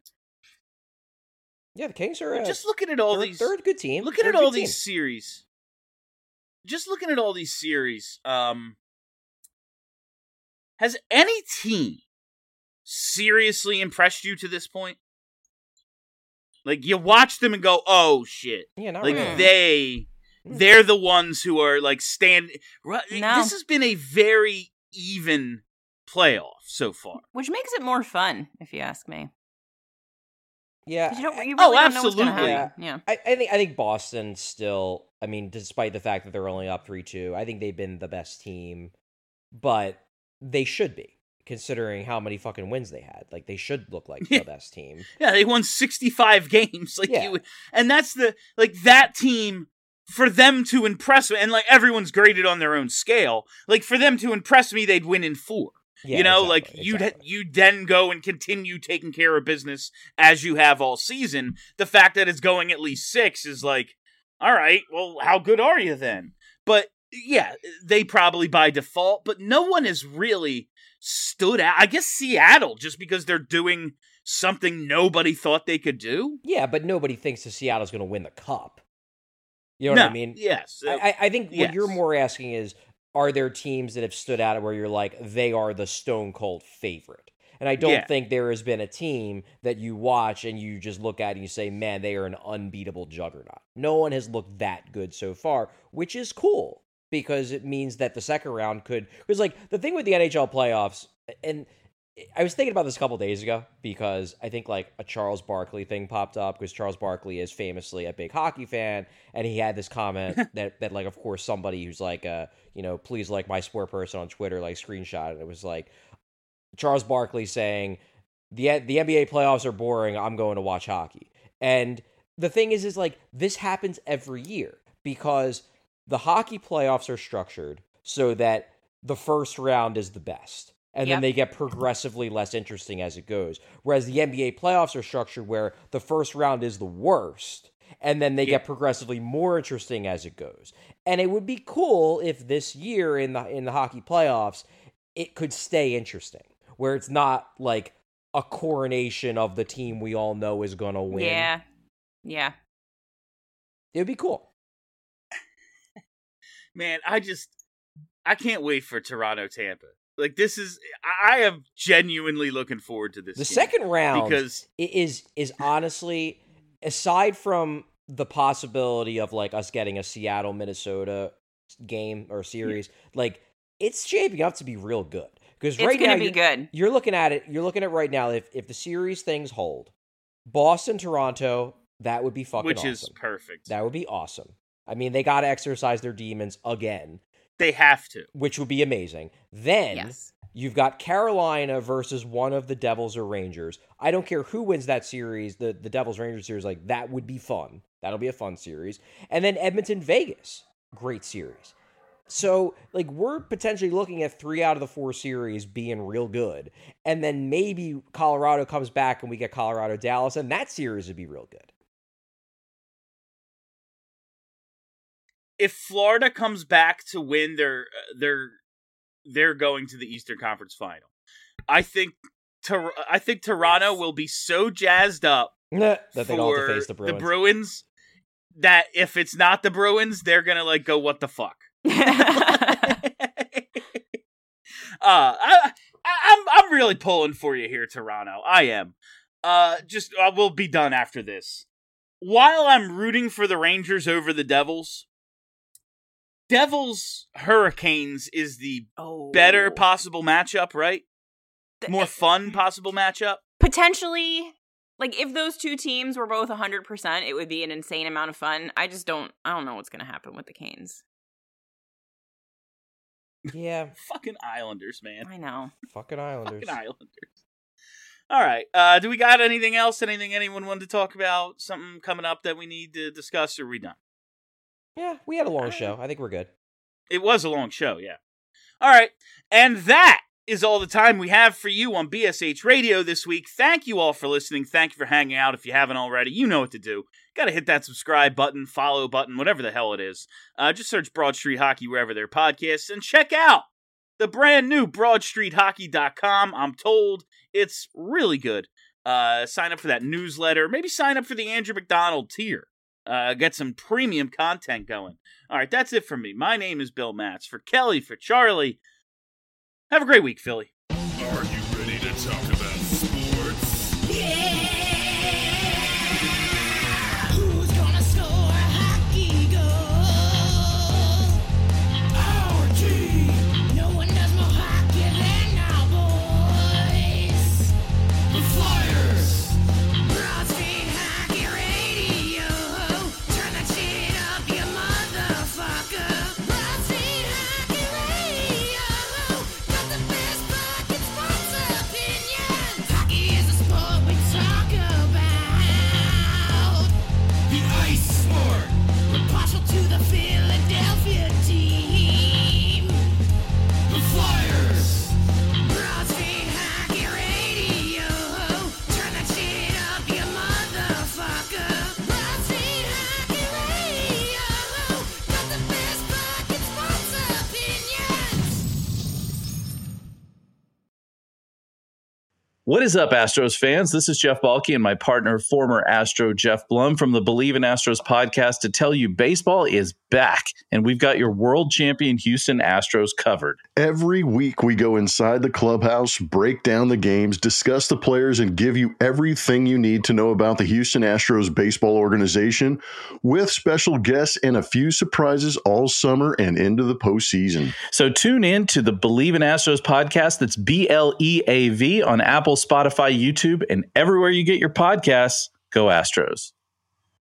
Speaker 4: Yeah, the Kings are uh,
Speaker 3: Just looking at all
Speaker 4: they're,
Speaker 3: these,
Speaker 4: they're a good team.
Speaker 3: looking
Speaker 4: They're
Speaker 3: at
Speaker 4: a
Speaker 3: all
Speaker 4: good
Speaker 3: these
Speaker 4: team.
Speaker 3: series. Just looking at all these series. Um, has any team seriously impressed you to this point? Like, you watch them and go, "Oh shit!"
Speaker 4: Yeah, not
Speaker 3: Like
Speaker 4: really.
Speaker 3: they, they're the ones who are like stand. Right,
Speaker 5: No.
Speaker 3: This has been a very even playoff so far.
Speaker 5: Which makes it more fun, if you ask me.
Speaker 4: Yeah,
Speaker 5: 'Cause you don't, you
Speaker 3: Oh,
Speaker 5: really don't know what's gonna
Speaker 3: absolutely.
Speaker 5: happen. Yeah.
Speaker 4: I, I think I think Boston still. I mean, despite the fact that they're only up three two, I think they've been the best team, but they should be considering how many fucking wins they had. Like they should look like
Speaker 3: Yeah.
Speaker 4: the best team.
Speaker 3: Yeah, they won sixty-five games. Like
Speaker 4: Yeah.
Speaker 3: you, and that's the like that team for them to impress me. And like everyone's graded on their own scale. Like for them to impress me, they'd win in four.
Speaker 4: Yeah,
Speaker 3: you know,
Speaker 4: exactly,
Speaker 3: like you'd
Speaker 4: exactly.
Speaker 3: you'd then go and continue taking care of business as you have all season. The fact that it's going at least six is like, all right, well, how good are you then? But yeah, they probably by default, but no one has really stood out. I guess Seattle, just because they're doing something nobody thought they could do.
Speaker 4: Yeah, but nobody thinks that Seattle's going to win the cup. You know
Speaker 3: no,
Speaker 4: what I mean?
Speaker 3: Yes.
Speaker 4: I, I- I think what
Speaker 3: yes.
Speaker 4: you're more asking is, are there teams that have stood out where you're like, they are the stone cold favorite? And I don't
Speaker 3: Yeah.
Speaker 4: think there has been a team that you watch and you just look at and you say, man, they are an unbeatable juggernaut. No one has looked that good so far, which is cool because it means that the second round could. Because, like, the thing with the N H L playoffs, and I was thinking about this a couple days ago because I think, like, a Charles Barkley thing popped up because Charles Barkley is famously a big hockey fan, and he had this comment that, that, like, of course, somebody who's like, uh, you know, please like my sport person on Twitter, like, screenshot, and it was like, Charles Barkley saying, the the N B A playoffs are boring, I'm going to watch hockey. And the thing is, is like, this happens every year because the hockey playoffs are structured so that the first round is the best. And
Speaker 5: Yep.
Speaker 4: then they get progressively less interesting as it goes. Whereas the N B A playoffs are structured where the first round is the worst. And then they
Speaker 3: Yeah.
Speaker 4: get progressively more interesting as it goes. And it would be cool if this year in the in the hockey playoffs, it could stay interesting. Where it's not like a coronation of the team we all know is going to win.
Speaker 5: Yeah. Yeah.
Speaker 4: It would be cool.
Speaker 3: Man, I just I can't wait for Toronto Tampa. Like this is I am genuinely looking forward to this.
Speaker 4: The
Speaker 3: game
Speaker 4: second round
Speaker 3: because
Speaker 4: i- is is honestly, aside from the possibility of like us getting a Seattle Minnesota game or series, yeah. like it's shaping up to be real good. Because right
Speaker 5: it's
Speaker 4: now,
Speaker 5: be
Speaker 4: you're,
Speaker 5: good.
Speaker 4: you're looking at it. You're looking at right now. If if the series things hold, Boston, Toronto, that would be fucking
Speaker 3: Which
Speaker 4: awesome.
Speaker 3: is perfect.
Speaker 4: That would be awesome. I mean, they got to exercise their demons again.
Speaker 3: They have to,
Speaker 4: which would be amazing. Then
Speaker 5: yes.
Speaker 4: you've got Carolina versus one of the Devils or Rangers. I don't care who wins that series. The the Devils Rangers series, like that would be fun. That'll be a fun series. And then Edmonton Vegas, great series. So, like, we're potentially looking at three out of the four series being real good. And then maybe Colorado comes back and we get Colorado Dallas, and that series would be real good.
Speaker 3: If Florida comes back to win, they're they're they're going to the Eastern Conference Final. I think Tor- I think Toronto will be so jazzed up
Speaker 4: that they don't have to face the Bruins.
Speaker 3: the Bruins that if it's not the Bruins, they're gonna like go, what the fuck? uh, I, I, I'm I'm really pulling for you here, Toronto. I am. Uh, just uh, we'll be done after this. While I'm rooting for the Rangers over the Devils, Devils Hurricanes is the
Speaker 5: oh.
Speaker 3: better possible matchup, right? More fun possible matchup.
Speaker 5: Potentially, like if those two teams were both one hundred percent, it would be an insane amount of fun. I just don't. I don't know what's going to happen with the Canes.
Speaker 4: Yeah.
Speaker 3: Fucking Islanders, man.
Speaker 5: I know.
Speaker 4: Fucking Islanders.
Speaker 3: Fucking Islanders. All right. Uh, do we got anything else? Anything anyone wanted to talk about? Something coming up that we need to discuss, or are we done?
Speaker 4: Yeah, we had a long show. I think we're good.
Speaker 3: It was a long show, yeah. All right. And that is all the time we have for you on B S H Radio this week. Thank you all for listening. Thank you for hanging out. If you haven't already, you know what to do. Got to hit that subscribe button, follow button, whatever the hell it is. Uh, just search Broad Street Hockey wherever there are podcasts and check out the brand new broad street hockey dot com. I'm told it's really good. Uh, sign up for that newsletter. Maybe sign up for the Andrew McDonald tier. Uh, get some premium content going. All right, that's it from me. My name is Bill Matz. For Kelly, for Charlie, have a great week, Philly.
Speaker 1: Are you ready to talk about sports?
Speaker 6: Yeah! Who's gonna score a hockey goal? Our team! No one does more hockey than our boys! The Flyers! Broad Street Hockey Radio! Turn that shit up, you motherfucker! Broad Street Hockey Radio! Got the best fucking sports opinions! Hockey is a sport we talk about! The ice sport! We're partial to the Philadelphia team! The Flyers! Broad Street Hockey Radio! Turn that shit up, you motherfucker! Broad Street Hockey Radio! Got the best fucking sports opinions!
Speaker 7: What is up, Astros fans? This is Jeff Balke and my partner, former Astro Jeff Blum from the Believe in Astros podcast to tell you baseball is back, and we've got your world champion Houston Astros covered.
Speaker 8: Every week we go inside the clubhouse, break down the games, discuss the players, and give you everything you need to know about the Houston Astros baseball organization with special guests and a few surprises all summer and into the postseason.
Speaker 7: So tune in to the Believe in Astros podcast. That's B L E A V on Apple, Spotify, YouTube, and everywhere you get your podcasts. Go Astros.